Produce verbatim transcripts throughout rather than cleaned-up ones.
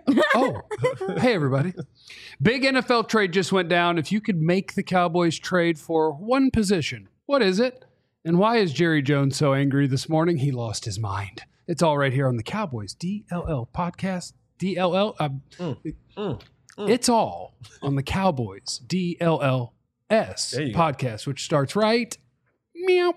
Oh, hey, everybody. Big N F L trade just went down. If you could make the Cowboys trade for one position, what is it? And why is Jerry Jones so angry this morning? He lost his mind. It's all right here on the Cowboys D L L podcast. D L L. Uh, mm, mm, mm. It's all on the Cowboys D L L S podcast, go. Which starts right. Meow.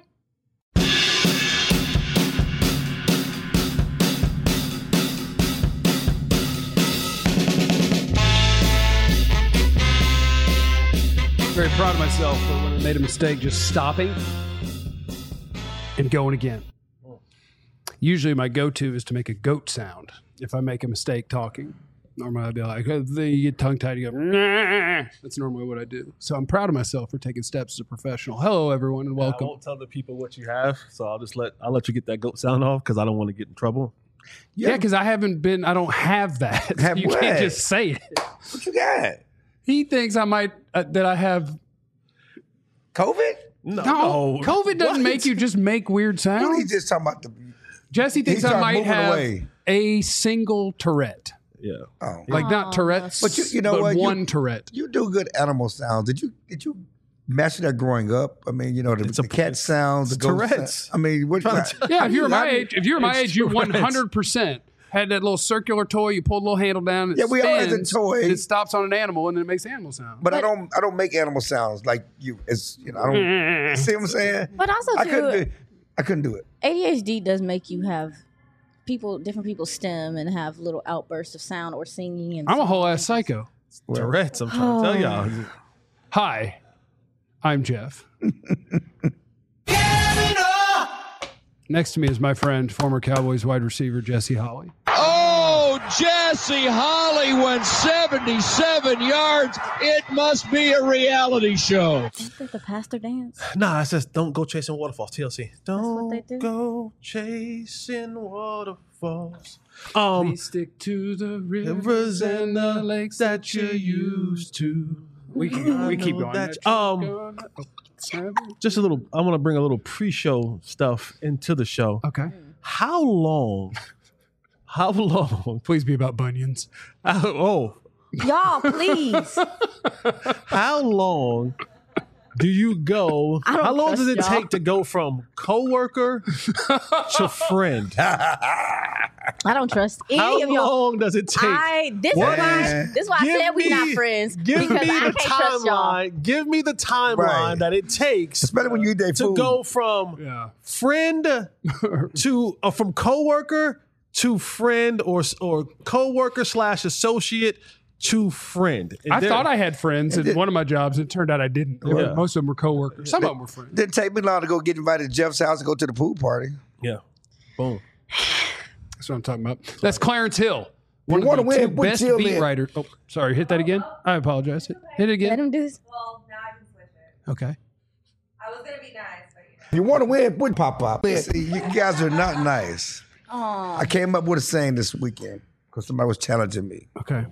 Very proud of myself for when I made a mistake just stopping and going again. Usually my go-to is to make a goat sound if I make a mistake talking. Normally I'd be like, then you get tongue-tied, you go, nah. That's normally what I do. So I'm proud of myself for taking steps as a professional. Hello, everyone, and welcome. I won't tell the people what you have, so I'll just let I'll let you get that goat sound off because I don't want to get in trouble. Yeah, because I haven't been, I don't have that. Have you what? can't just say it. What you got? He thinks I might, uh, that I have. COVID? No, no. COVID doesn't what? make you just make weird sounds. What, he's just talking about the. Jesse thinks I might have away. a single Tourette. Yeah. Oh. Like not Tourette's, but you, you know but what? one you, Tourette. You do good animal sounds. Did you did you master that growing up? I mean, you know, the, the cat sounds, the Tourette's. I mean, what? Yeah, if you were my age, if you were my age, you one hundred percent had that little circular toy. You pull the little handle down. And it yeah, we all had the spins, toy. And it stops on an animal, and then it makes animal sound. But, but I don't, I don't make animal sounds like you. It's you know, I don't see what I'm saying. But also, I too, couldn't do, I couldn't do it. A D H D does make you have people, different people stem and have little outbursts of sound or singing. And I'm a whole ass psycho. Well, Tourette's. I'm trying to tell y'all. Hi, I'm Jeff. Next to me is my friend, former Cowboys wide receiver, Jesse Holley. Oh, Jesse Holley went seventy-seven yards. It must be a reality show. Is that the pastor dance? Nah, it says don't go chasing waterfalls. T L C. Don't That's what they do? go chasing waterfalls. Um, Please stick to the rivers and the lakes that you used to. We can, we keep going. That, um, just a little. I want to bring a little pre-show stuff into the show. Okay. How long? How long? Please be about bunions. Uh, oh, y'all, please. How long do you go? I don't how long does it y'all. take to go from coworker to friend? I don't trust any how of y'all. How long does it take? I, this, is why, this is why I give said we me, not friends. Give because me I the can't trust y'all. timeline. Give me the timeline Right. that it takes, especially when you eat that to food. go from yeah. friend to uh, from coworker to friend or or coworker slash associate to friend. And I there, thought I had friends at one of my jobs. It turned out I didn't. Yeah. Most of them were coworkers. Some of them were friends. Didn't take me long to go get invited to Jeff's house and go to the pool party. Yeah. Boom. That's what I'm talking about. That's Clarence Hill. One One of of the win, two put best Jill beat in. writers. Oh, sorry. Hit that again. I apologize. Hit, hit it Let again. him do this. Well, now I can switch it. Okay. I was going to be nice, but you know. If you want to win, put pop pop. See, you guys are not nice. Aww. I came up with a saying this weekend because somebody was challenging me. Okay.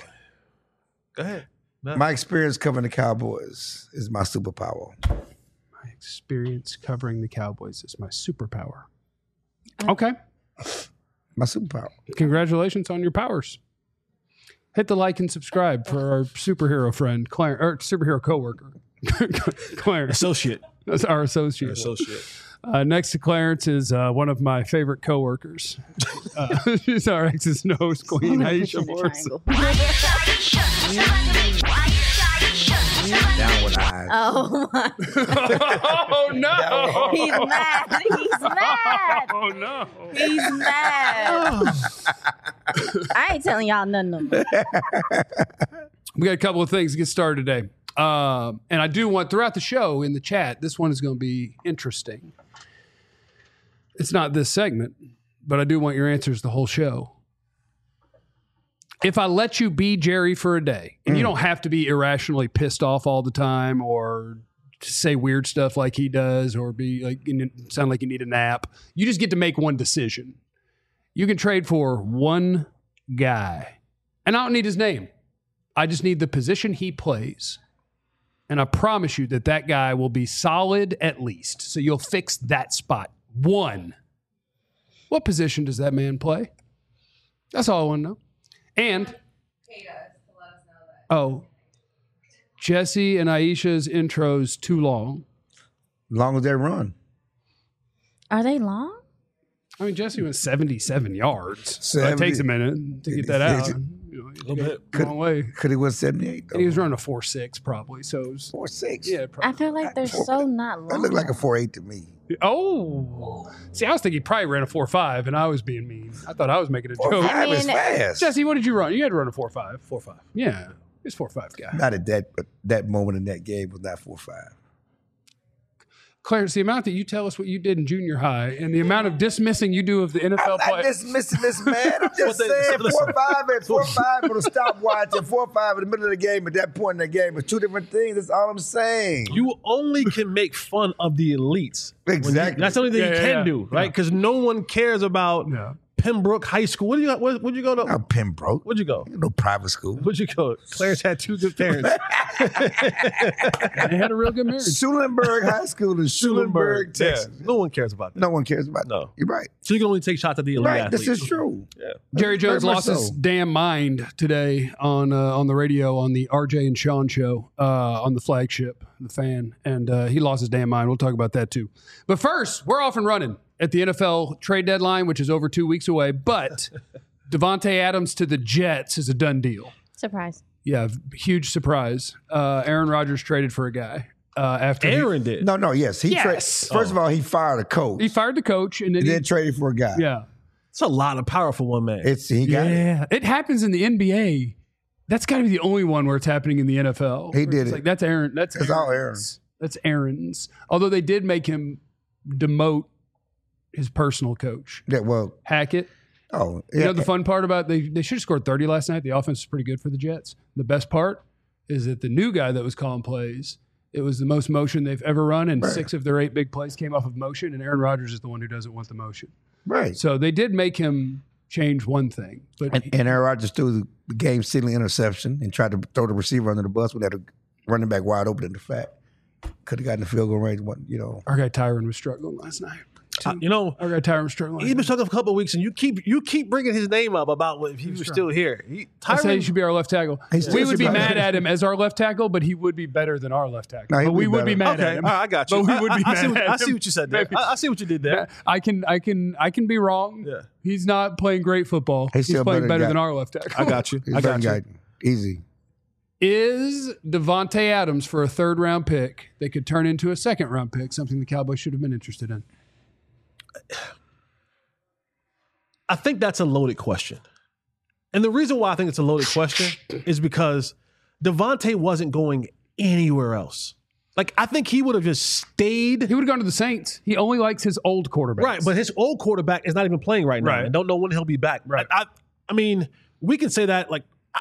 Go ahead. No. My experience covering the Cowboys is my superpower. My experience covering the Cowboys is my superpower. Okay. My superpower. Congratulations on your powers. Hit the like and subscribe for our superhero friend, Clarence, or superhero coworker, Clarence. Associate. That's our associate. Your associate. Uh, next to Clarence is uh, one of my favorite coworkers. Uh, she's our ex's nose queen, Aisha Morrison. Down with eyes. Oh my! Oh no! He's mad. He's mad. Oh no! He's mad. I ain't telling y'all nothing no more. We got a couple of things to get started today. Um, and I do want, throughout the show in the chat, this one is going to be interesting. It's not this segment, but I do want your answers the whole show. If I let you be Jerry for a day, and mm. you don't have to be irrationally pissed off all the time or say weird stuff like he does or be like, sound like you need a nap. You just get to make one decision. You can trade for one guy. And I don't need his name. I just need the position he plays. And I promise you that that guy will be solid at least. So you'll fix that spot. One. What position does that man play? That's all I want to know. And Paid us to let us know that. oh, Jesse and Aisha's intros too long. As long as they run. Are they long? I mean, Jesse was seventy-seven yards. So it seventy takes a minute to get that out. You know, you little go a long way. Could he win seventy-eight, though? And he was running a four six probably. So it was, four six. yeah, I probably. feel like they're so not long. That looked like a four eight to me. Oh, see, I was thinking he probably ran a four five, and I was being mean. I thought I was making a Four joke. five is mean- fast. Jesse, what did you run? You had to run a four five. Four five. Yeah, he's four five guy. Not at that, but that moment in that game was not four five. Clarence, the amount that you tell us what you did in junior high, and the amount of dismissing you do of the N F L I'm not players. dismissing this, man. I'm just they- saying listen. four five and four five with a stopwatch and four five in the middle of the game at that point in the game is two different things. That's all I'm saying. You only can make fun of the elites. when you- Exactly. that's the only thing Yeah, you yeah, can yeah. do, right? Because no one cares about Yeah. Pembroke High School. What do you? Where, where'd you go to? Not Pembroke. Where'd you go? No private school. Where'd you go? Clarence had two good parents. They had a real good marriage. Schulenburg High School in Schulenburg, Yeah. Texas. No one cares about that. No one cares about that. No. You're right. So you can only take shots at the elite Right. athletes. This is true. Yeah. Jerry Jones Very much lost his so. damn mind today on uh, on the radio on the R J and Sean show uh, on the flagship, the fan, and uh, he lost his damn mind. We'll talk about that too. But first, we're off and running at the N F L trade deadline, which is over two weeks away. But Devontae Adams to the Jets is a done deal. Surprise. Yeah, huge surprise. Uh, Aaron Rodgers traded for a guy uh, after he- Aaron did. No, no, yes. He Yes. tra- First of all, he fired a coach. he fired the coach, and then, and he, then traded for a guy. yeah, It's a lot of power for one man. It's he got it. yeah, it happens in the N B A. That's got to be the only one where it's happening in the N F L. He Where did it's it. Like that's Aaron. That's It's all Aaron's. That's Aaron's. Although they did make him demote his personal coach, Yeah, well, Hackett. oh, You yeah. know the fun part about they they should have scored thirty last night. The offense is pretty good for the Jets. The best part is that the new guy that was calling plays, it was the most motion they've ever run, and Right. six of their eight big plays came off of motion. And Aaron Rodgers is the one who doesn't want the motion. right. So they did make him change one thing, but And, and Aaron Rodgers threw the game sealing interception and tried to throw the receiver under the bus when that running back wide open in the fact. Could have gotten the field goal range. One, you know. our guy Tyron was struggling last night. Uh, you know, Our guy Tyron was struggling. he's been struggling for a couple of weeks, and you keep you keep bringing his name up about what if he was still here. He, I say he Tyron, should be our left tackle. He still We should would be be. mad at him as our left tackle, but he would be better than our left tackle. No, he but would we be would be better. mad okay, at him. all right, I got you. But we would be I, I, mad see what, at I see him. what you said there. I, I see what you did there. I can, I can, I can be wrong. Yeah. He's not playing great football. He's He's, still playing better better than than guy. our left tackle. I got you. He's I got very you. guy- Easy. Is Devontae Adams for a third round pick that could turn into a second round pick something the Cowboys should have been interested in? I think that's a loaded question. And the reason why I think it's a loaded question is because Devontae wasn't going anywhere else. Like, I think he would have just stayed. He would have gone to the Saints. He only likes his old quarterbacks. Right, but his old quarterback is not even playing right now. Right. And don't know when he'll be back. Right. I, I, I mean, we can say that, like, I,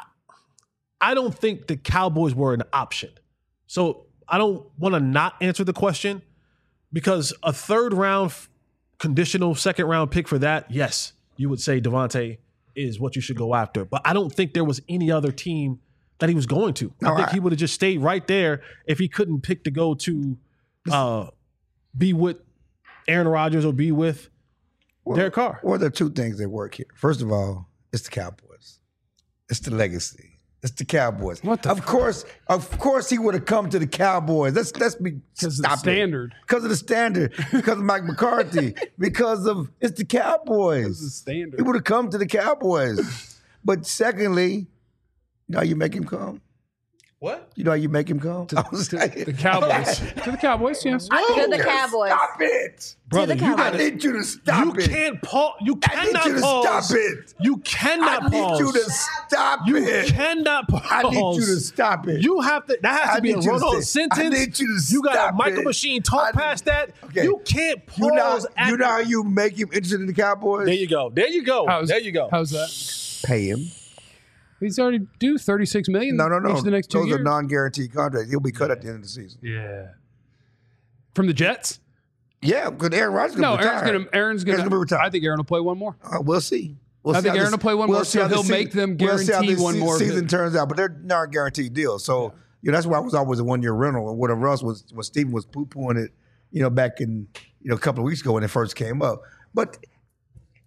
I don't think the Cowboys were an option. So I don't want to not answer the question because a third round f- conditional second round pick for that, yes, you would say Devontae is what you should go after. But I don't think there was any other team that he was going to. No, I think I- he would have just stayed right there if he couldn't pick to go to uh, be with Aaron Rodgers or be with Well, Derek Carr. Well, there are two things that work here. First of all, it's the Cowboys. It's the legacy. It's the Cowboys. What the of fuck? course, of course, he would have come to the Cowboys. Let's let's be Because of the stop standard. Because of the standard. Because of Mike McCarthy. Because of it's the Cowboys. This is standard. He would have come to the Cowboys. But secondly, you know how you make him come? What? You know how you make him come? I was To like- the Cowboys. To the Cowboys, yes. To the No, Cowboys. Stop it. Brother, the you I Cowboys. need you to stop You it. can't pause. You I need cannot you to pause. stop it. You I cannot need pause. you to stop You it. cannot pause. I need you to stop it. You have to. That has I to be a need you to run-on say- sentence. I need you to You got stop a Michael it. Machine talk I- past that. Okay. You can't pause. You know, at you know how you make him interested in the Cowboys? There you go. There you go. How's, there you go. How's that? Pay him. He's already due thirty-six million No, no, no. each of the next two Those years. are non-guaranteed contracts. He'll be cut at the end of the season. yeah. From the Jets? Yeah, because Aaron Rodgers is No, going to Aaron's retire. gonna Aaron's gonna, Aaron's gonna retire. I think Aaron will play one more. Uh, we'll see. We'll I see think how Aaron this- will play one more, see how so he'll this make them we'll see how guarantee this one se- more season bid. turns out, but they're non-guaranteed deals. So you know, that's why it was always a one-year rental. And what Russ was, when Steven was poo-pooing it, you know, back in you know a couple of weeks ago when it first came up. But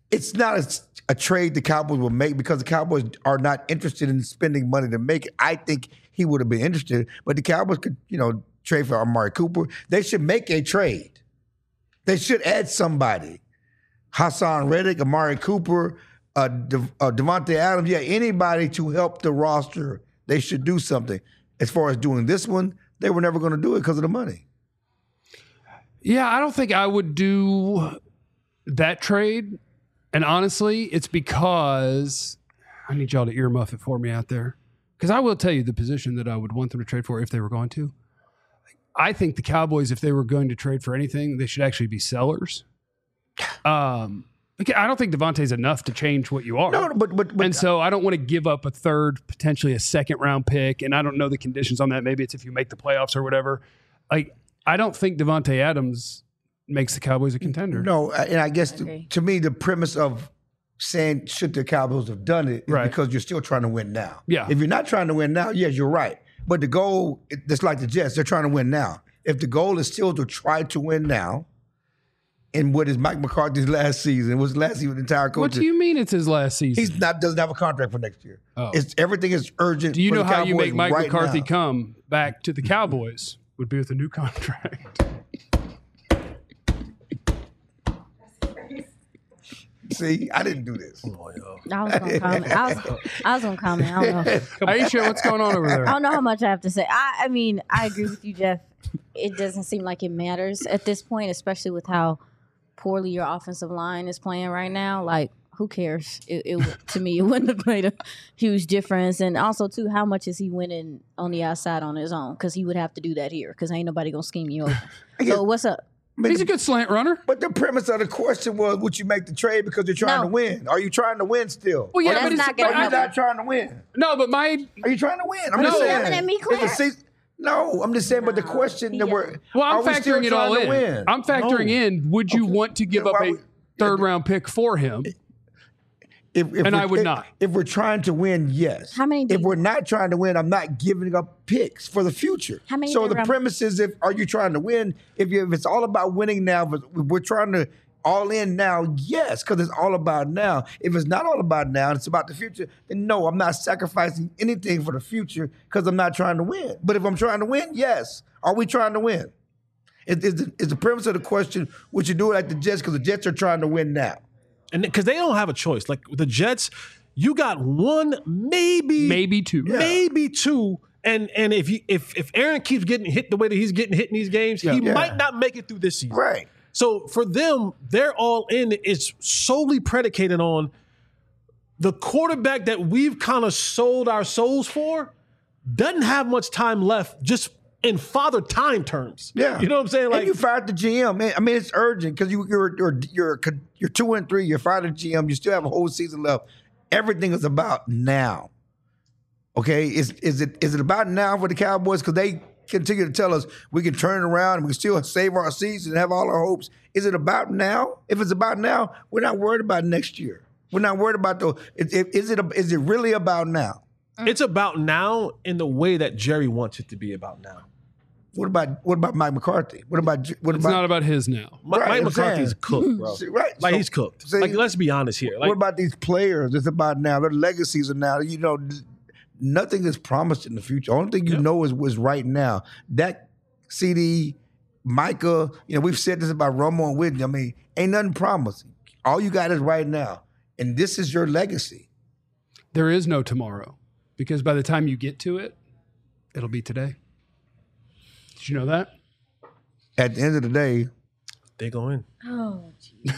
it's not a, a trade the Cowboys will make because the Cowboys are not interested in spending money to make it. I think he would have been interested, but the Cowboys could, you know, trade for Amari Cooper. They should make a trade. They should add somebody. Hassan Reddick, Amari Cooper, uh, De- uh, Devontae Adams, yeah, anybody to help the roster. They should do something. As far as doing this one, they were never going to do it because of the money. Yeah, I don't think I would do that trade. And honestly, it's because I need y'all to earmuff it for me out there. Because I will tell you the position that I would want them to trade for if they were going to. I think the Cowboys, if they were going to trade for anything, they should actually be sellers. Um, okay, I don't think Devontae's enough to change what you are. No, but but, but and so I don't want to give up a third, potentially a second round pick. And I don't know the conditions on that. Maybe it's if you make the playoffs or whatever. Like, I don't think Devontae Adams makes the Cowboys a contender. No, and I guess Okay. to, to me, the premise of saying should the Cowboys have done it is Right. because you're still trying to win now. Yeah. If you're not trying to win now, yes, you're right. But the goal, it- it's like the Jets, they're trying to win now. If the goal is still to try to win now, and what is Mike McCarthy's last season, was last season the entire coach. What do you mean it's his last season? He's not doesn't have a contract for next year. Oh. It's everything is urgent. Do you for know the how you Cowboys make Mike right McCarthy now. come back to the Cowboys? Would be with a new contract. See, I didn't do this. I was gonna comment. I was, I was gonna comment. I don't know. Aisha, what's going on over I there? don't know how much I have to say. I, I mean, I agree with you, Jeff. It doesn't seem like it matters at this point, especially with how poorly your offensive line is playing right now. Like, who cares? It, it to me, it wouldn't have made a huge difference. And also, too, how much is he winning on the outside on his own? Because he would have to do that here. Because ain't nobody gonna scheme you over. So what's up? I mean, He's a good slant runner. But the premise of the question was, would you make the trade because you're trying No. to win? Are you trying to win still? Well, yeah, Are That's but it's not gonna Are you help. not trying to win? no, but my Are you trying to win? I'm No. just saying. Yelling at me, It's a Clarence. six- no, I'm just saying. But the question that Yeah. we're well, I'm are we still factoring it all trying to in. win? I'm factoring No. in. Would you want to give Then up why a would- third round pick for him? If, if And we're- I would if- not. If we're trying to win, yes. How many do If you we're want? not trying to win, I'm not giving up picks for the future. How many So third the round- premise is, if are you trying to win? If you, if it's all about winning now, but we're trying to all in now, yes, because it's all about now. If it's not all about now, and it's about the future, then no, I'm not sacrificing anything for the future because I'm not trying to win. But if I'm trying to win, yes. Are we trying to win? Is, is, the, is the premise of the question, would you do it like the Jets? Because the Jets are trying to win now. And because they don't have a choice. Like the Jets, you got one, maybe, Maybe two. maybe two. And and if you if if Aaron keeps getting hit the way that he's getting hit in these games, he Yeah. might not make it through this season. Right. So for them, they're all in is solely predicated on the quarterback that we've kind of sold our souls for doesn't have much time left just in father time terms. Yeah, You know what I'm saying? Like and you fired the G M. Man, I mean, it's urgent because you, you're you're you're you're two and three. You're fired the G M. You still have a whole season left. Everything is about now. Okay, is is it is it about now for the Cowboys? Because they continue to tell us we can turn it around and we can still save our season and have all our hopes. Is it about now? If it's about now, we're not worried about next year. We're not worried about the. Is, is it is it really about now? it's about now in the way that Jerry wants it to be about now. What about what about Mike McCarthy? What about what It's about not about his now. Mi- Right, Mike I'm McCarthy's saying. cooked, bro. right? Like So- he's cooked. see- like let's be honest here. Like what about these players? It's about now. Their legacies are now. You know, th- nothing is promised in the future. Only thing you Yep. know is was right now. That C D, Micah. You know, we've said this about Romo and Whitney. I mean, ain't nothing promised. All you got is right now, and this is your legacy. There is no tomorrow because by the time you get to it, it'll be today. Did you know that? At the end of the day, they go in. Oh,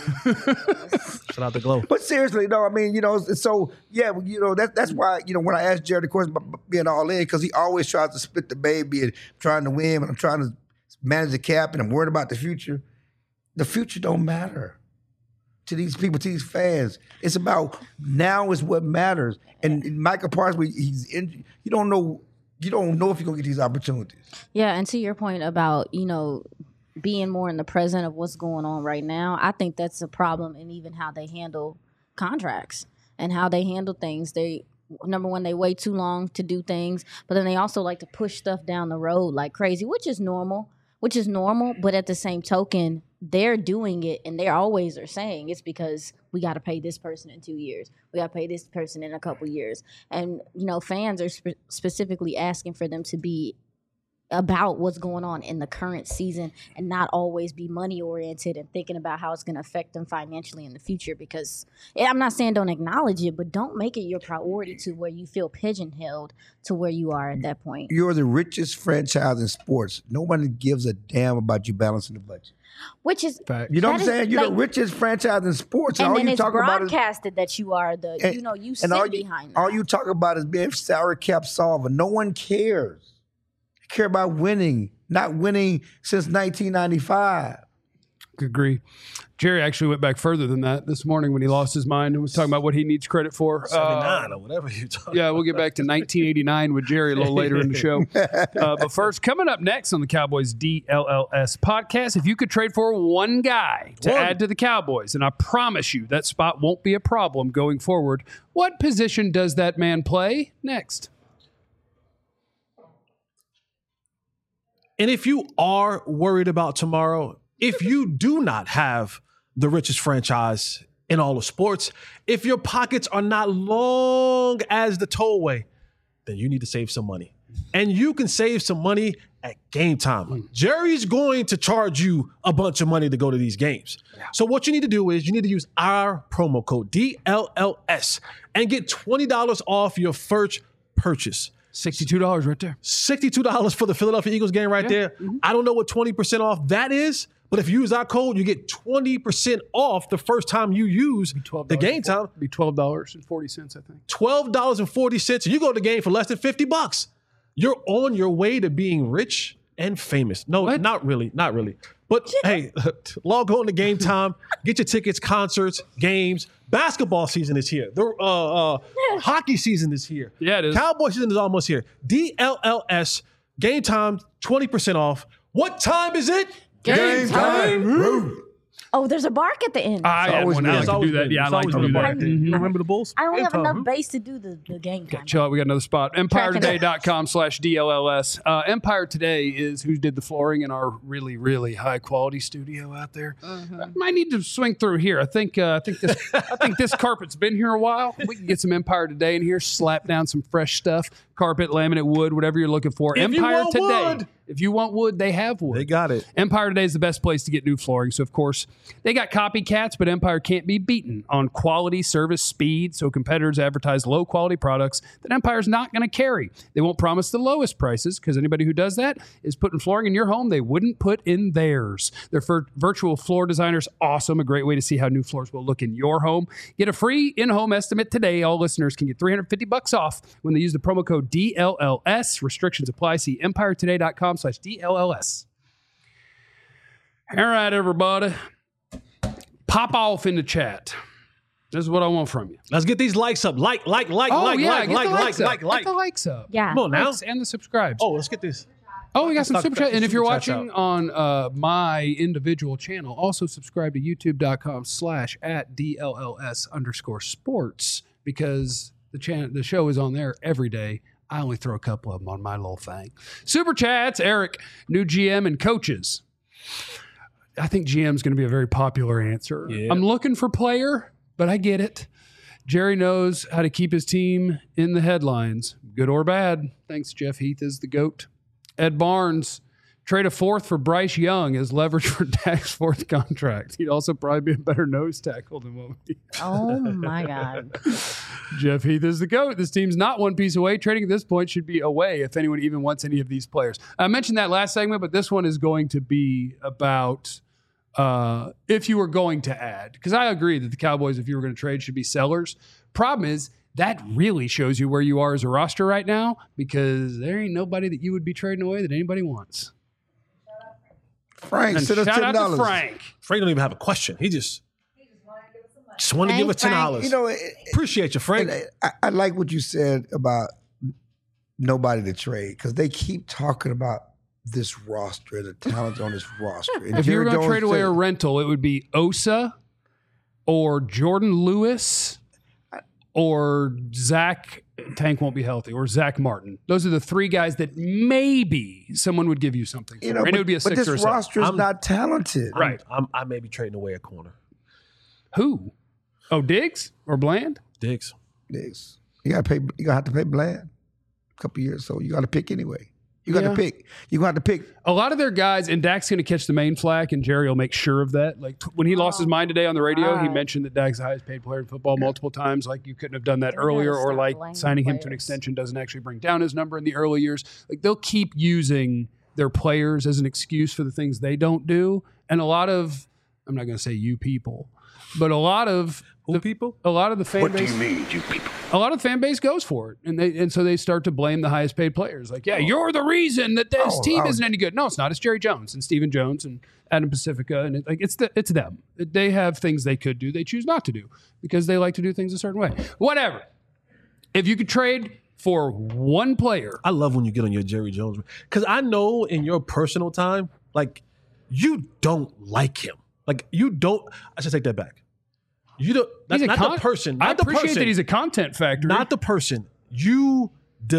Shout out the glow. but seriously, no, I mean, you know, it's- so yeah, you know, that, that's why, you know, when I asked Jared the question about being all in, because he always tries to split the baby and trying to win, and I'm trying to manage the cap, and I'm worried about the future. The future don't matter to these people, to these fans. It's about now is what matters. And Michael Parsons, he's in, you don't know, you don't know if you're gonna get these opportunities. yeah. And to your point about, you know, being more in the present of what's going on right now, I think that's a problem in even how they handle contracts and how they handle things. They, number one, they wait too long to do things, but then they also like to push stuff down the road like crazy, which is normal. which is normal. But at the same token, they're doing it, and they always are saying it's because we got to pay this person in two years. We got to pay this person in a couple years. And, you know, fans are spe- specifically asking for them to be about what's going on in the current season and not always be money oriented and thinking about how it's going to affect them financially in the future. Because I'm not saying don't acknowledge it, but don't make it your priority to where you feel pigeonholed to where you are at that point. You're the richest franchise in sports. Nobody gives a damn about you balancing the budget. Which is, Fact. You know what I'm That is, saying? You're like- the richest franchise in sports. and all then you it's talk about is broadcasted that you are the, and- you know, you and sit all you, behind all that. you talk about is being salary cap solver. No one cares. They care about winning, not winning since nineteen ninety-five. Agree. Jerry actually went back further than that this morning when he lost his mind and was talking about what he needs credit for. seventy-nine Uh, or whatever you talking yeah, we'll get back to nineteen eighty-nine with Jerry a little later in the show. Uh, but first, coming up next on the Cowboys D L L S podcast, if you could trade for one guy to One. add to the Cowboys, and I promise you that spot won't be a problem going forward, what position does that man play? Next. And if you are worried about tomorrow, if you do not have the richest franchise in all of sports, if your pockets are not long as the tollway, then you need to save some money. And you can save some money at Game Time. Jerry's going to charge you a bunch of money to go to these games. So what you need to do is you need to use our promo code D L L S and get twenty dollars off your first purchase. sixty-two dollars right there. sixty-two dollars for the Philadelphia Eagles game right there. I don't know what twenty percent off that is, but if you use our code, you get twenty percent off the first time you use the Game Time. It'd be twelve dollars and forty cents, I think. twelve dollars and forty cents, and you go to the game for less than fifty bucks. You're on your way to being rich and famous. No, What? not really, not really. But hey, log on to Game Time, get your tickets, concerts, games. Basketball season is here. The uh, uh, hockey season is here. Yeah, it is. Cowboy season is almost here. D L L S, Game Time, twenty percent off. What time is it? Game time. Oh, there's a bark at the end. I had always one. been. I like It's to do always that. been. Yeah, I It's like to always do been that. a bark. You remember the Bulls? I don't Game have Time. enough base to do the, the game time. Chill out. We got another spot. empire today dot com slash D L L S. Uh, Empire Today is who did the flooring in our really, really high quality studio out there. Mm-hmm. I might need to swing through here. I think uh, I think this I think this carpet's been here a while. We can get some Empire Today in here, slap down some fresh stuff. Carpet, laminate, wood, whatever you're looking for. If you Empire want Today. wood. If you want wood, they have wood. They got it. Empire Today is the best place to get new flooring. So, of course, they got copycats, but Empire can't be beaten on quality, service, speed. So, competitors advertise low quality products that Empire's not going to carry. They won't promise the lowest prices because anybody who does that is putting flooring in your home they wouldn't put in theirs. Their fir- virtual floor designer's awesome. A great way to see how new floors will look in your home. Get a free in home estimate today. All listeners can get three hundred fifty bucks off when they use the promo code D L L S. Restrictions apply. See empire today dot com slash D L L S. All right, everybody. Pop off in the chat. This is what I want from you. Let's get these likes up. Like, like, like, Oh, like, yeah. like, Get like, the like, likes up. like, like. Get the likes up. Yeah. Come on now. Likes and the subscribes. Oh, let's get this. Oh, we got some Let's super knock chat. And if super you're chats watching out. on uh, my individual channel, also subscribe to youtube dot com slash at D L L S underscore sports because the channel, the show is on there every day. I only throw a couple of them on my little thing. Super chats, Eric, new G M and coaches. I think G M is going to be a very popular answer. Yeah. I'm looking for player, but I get it. Jerry knows how to keep his team in the headlines, good or bad. Thanks, Jeff Heath is the GOAT. Ed Barnes, trade a fourth for Bryce Young as leverage for Dak's fourth contract. He'd also probably be a better nose tackle than what we. Oh my God. Jeff Heath is the GOAT. This team's not one piece away. Trading at this point should be away if anyone even wants any of these players. I mentioned that last segment, but this one is going to be about uh, if you were going to add. Because I agree that the Cowboys, if you were going to trade, should be sellers. Problem is, that really shows you where you are as a roster right now because there ain't nobody that you would be trading away that anybody wants. Frank, And send us shout ten out to dollars. Frank. Frank don't even have a question. He just just want to give us Thanks, ten Frank. dollars. You know, it, Appreciate you, Frank. and I, I like what you said about nobody to trade because they keep talking about this roster, the talent on this roster. And If you were Jerry going to Jones trade away said- a rental, it would be Osa or Jordan Lewis or Zach Tank won't be healthy, or Zach Martin. Those are the three guys that maybe someone would give you something for. You know, and but, it would be a but six this or a seven. roster is I'm- not talented. Right. I'm, I may be trading away a corner. Who? Oh, Diggs or Bland? Diggs. This. You gotta pay. You gotta have to pay Bland. A couple years, so you got to pick anyway. You got to Yeah. pick. You got to pick. A lot of their guys, and Dak's going to catch the main flack, and Jerry will make sure of that. Like t- when he lost his mind today on the radio, he God. mentioned that Dak's the highest paid player in football multiple times. Like you couldn't have done that They gotta earlier, or stop like blaming signing him to an players. extension doesn't actually bring down his number in the early years. Like they'll keep using their players as an excuse for the things they don't do, and a lot of I'm not going to say you people, but a lot of Who the people? a lot of the fan What do base. you mean, you people? A lot of the fan base goes for it, and they and so they start to blame the highest paid players. Like, yeah, you're the reason that this Oh, team oh. isn't any good. No, it's not. It's Jerry Jones and Stephen Jones and Adam Pacifica, and it, like it's the, it's them. They have things they could do, they choose not to do because they like to do things a certain way. Whatever. If you could trade for one player, I love when you get on your Jerry Jones because I know in your personal time, like you don't like him. Like you don't. I should take that back. You don't. That's he's a not con- the person. Not I the appreciate person. that he's a content factory. Not the person. You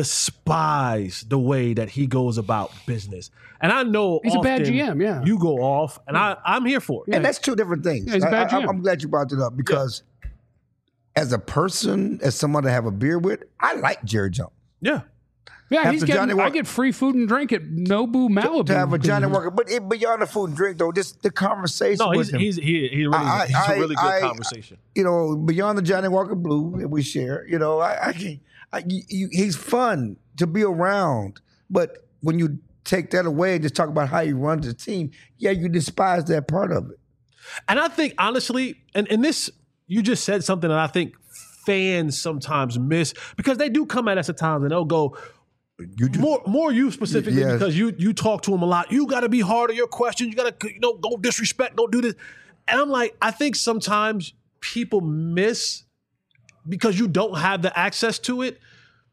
despise the way that he goes about business, and I know He's a bad often G M, yeah. you go off, and I I'm here for it. And that's two different things. Yeah, he's a I, bad I, G M. I'm glad you brought it up because as a person, as someone to have a beer with, I like Jerry Jones. Yeah. yeah, After he's getting. Johnny I Walker- get free food and drink at Nobu Malibu To have a because Johnny of his- Walker, but it, beyond the food and drink though, just the conversation No, with he's him. he's he, he really, I- he's I- a really good I- conversation. you know, beyond the Johnny Walker Blue that we share, you know, I, I, can- I you, you- he's fun to be around. But when you take that away and just talk about how he runs the team, yeah, you despise that part of it. And I think honestly, and, and this, you just said something that I think fans sometimes miss because they do come at us at times and they'll go, You do, more more you specifically Yes. because you you talk to him a lot. You got to be hard on your questions. You got to, you know, don't disrespect, don't do this. And I'm like, I think sometimes people miss because you don't have the access to it.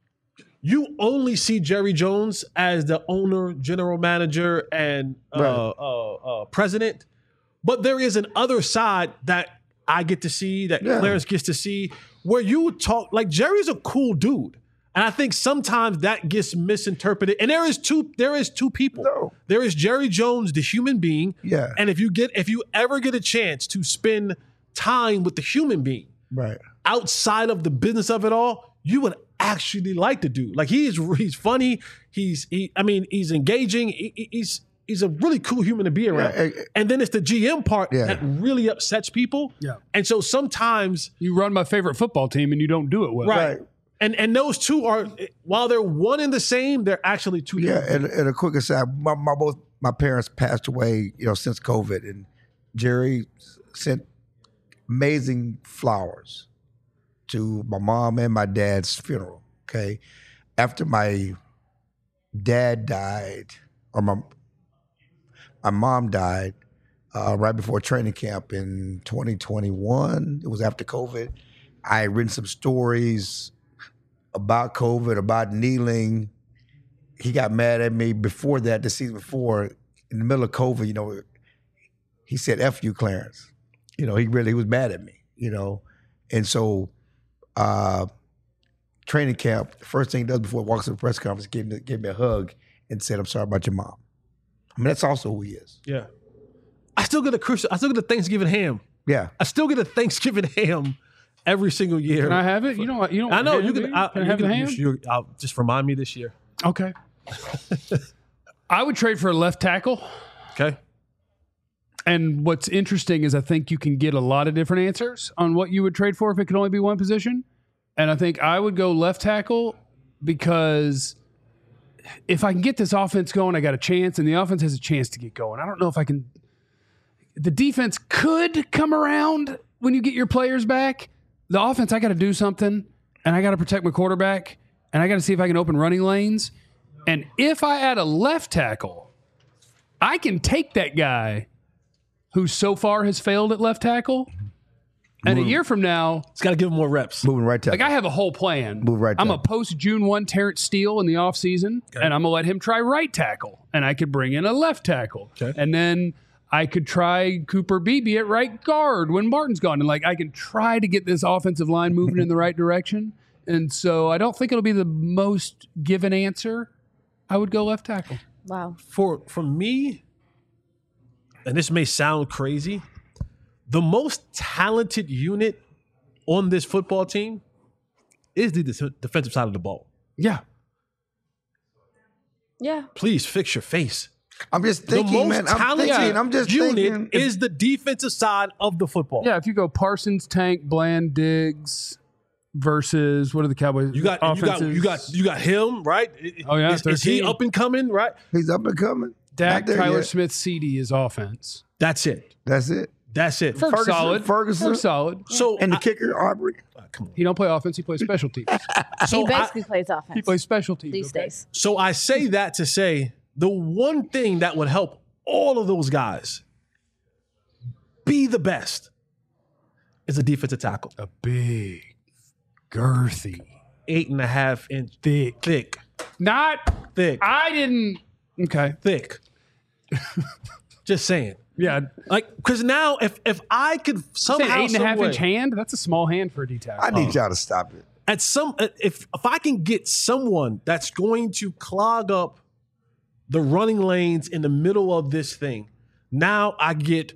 You only see Jerry Jones as the owner, general manager, and uh, Right. uh, uh, president. But there is an other side that I get to see, that Yeah. Clarence gets to see, where you talk like Jerry's a cool dude. And I think sometimes that gets misinterpreted. And there is two, there is two people. No. There is Jerry Jones, the human being. Yeah. And if you get if you ever get a chance to spend time with the human being right. outside of the business of it all, you would actually like to do. Like he's he's funny. He's he. I mean, he's engaging. He- he- he's he's a really cool human to be around. Yeah, eh, eh. And then it's the G M part Yeah. that really upsets people. Yeah. And so sometimes, You run my favorite football team and you don't do it well. right. Right. And and those two are, while they're one and the same, they're actually two Yeah, different. and, and a quick aside, my, my both my parents passed away, you know, since COVID, and Jerry sent amazing flowers to my mom and my dad's funeral. Okay, after my dad died, or my my mom died, uh, right before training camp in twenty twenty-one. It was after COVID. I had written some stories about COVID, about kneeling. He got mad at me before that, the season before, in the middle of COVID, you know, he said, F you, Clarence. You know, he really he was mad at me, you know. And so uh, training camp, the first thing he does before he walks to the press conference, gave me, gave me a hug and said, I'm sorry about your mom. I mean, that's also who he is. Yeah. I still get a Christmas, I still get a Thanksgiving ham. Yeah. I still get a Thanksgiving ham every single year. Can I have it? You know what? You don't. I know want you ham, can. do I, Can I you have can the ham? you, I'll, just remind me this year. Okay. I would trade for a left tackle. Okay. And what's interesting is I think you can get a lot of different answers on what you would trade for if it could only be one position. And I think I would go left tackle because if I can get this offense going, I got a chance, and the offense has a chance to get going. I don't know if I can. The defense could come around when you get your players back. The offense, I got to do something, and I got to protect my quarterback, and I got to see if I can open running lanes. And if I add a left tackle, I can take that guy who so far has failed at left tackle, and a year from now, It's got to give him more reps. Moving right tackle. like I have a whole plan. Move right I'm a tackle. post June first Terrence Steele in the offseason, and I'm going to let him try right tackle, and I could bring in a left tackle. Okay. And then I could try Cooper Beebe at right guard when Martin's gone. And like I can try to get this offensive line moving in the right direction. And so I don't think it'll be the most given answer. I would go left tackle. Wow. For for me, and this may sound crazy, the most talented unit on this football team is the de- defensive side of the ball. Yeah. Yeah. Please fix your face. I'm just The thinking, most man. I'm talented thinking. I'm just unit thinking. is the defensive side of the football. Yeah, if you go Parsons, Tank, Bland, Diggs versus what are the Cowboys? You got, you got, offenses? you got, you got him, right? Oh, yeah, is, is he thirteen. up and coming, right? He's up and coming. Dak, Not there Tyler yet. Smith, C D is offense. That's it. That's it. That's it. For- Ferguson, solid. Ferguson, We're solid. So and the I- kicker Aubrey. ah, come on. He don't play offense. He plays special teams. So he I, basically plays offense He plays special teams. these okay? days. so I say that to say the one thing that would help all of those guys be the best is a defensive tackle. A big, girthy, Eight and a half inch thick. thick, Not. thick, I didn't. Okay. thick. Just saying. Yeah. Like, because now if if I could Say an somehow, eight and a half some way- inch hand. That's a small hand for a D tackle. I need y'all to stop it. at some if if I can get someone that's going to clog up the running lanes in the middle of this thing, now I get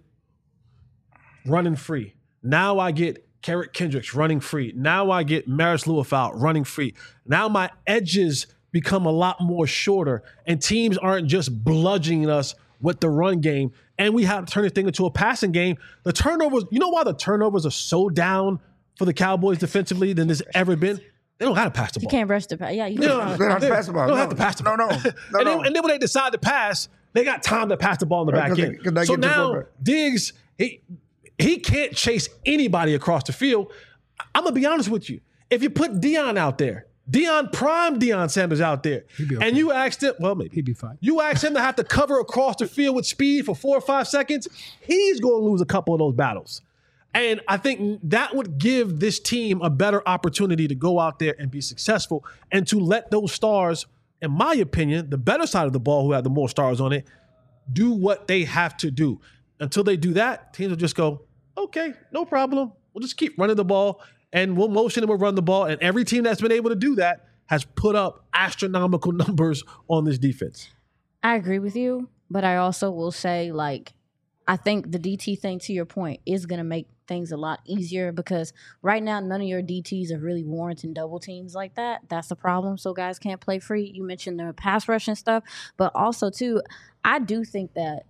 running free. Now I get Carrick Kendricks running free. Now I get Maris Lewis-Out running free. Now my edges become a lot more shorter, and teams aren't just bludgeoning us with the run game, and we have to turn this thing into a passing game. The turnovers, you know why the turnovers are so down for the Cowboys defensively than there's ever been? They don't got to pass the You ball. can't rush the pass. Yeah, you They can't. don't, They don't have to they- pass the ball. They don't No. have to pass the No, ball. no. No, and, no. Then, and then when they decide to pass, they got time to pass the ball in the Right, back 'cause they- end. 'cause they So get to the now quarterback. Diggs, he he can't chase anybody across the field. I'm gonna be honest with you. If you put Deion out there, Deion prime Deion Sanders out there, be okay. and you asked him, well, maybe He'd be fine. you ask him to have to cover across the field with speed for four or five seconds, he's going to lose a couple of those battles. And I think that would give this team a better opportunity to go out there and be successful and to let those stars, in my opinion, the better side of the ball, who have the more stars on it, do what they have to do. Until they do that, teams will just go, okay, no problem. We'll just keep running the ball and we'll motion and we'll run the ball. And every team that's been able to do that has put up astronomical numbers on this defense. I agree with you, but I also will say, like, I think the D T thing, to your point, is going to make things a lot easier because right now none of your D Ts are really warranting double teams like that. That's the problem. So guys can't play free. You mentioned the pass rush and stuff, but also too, I do think that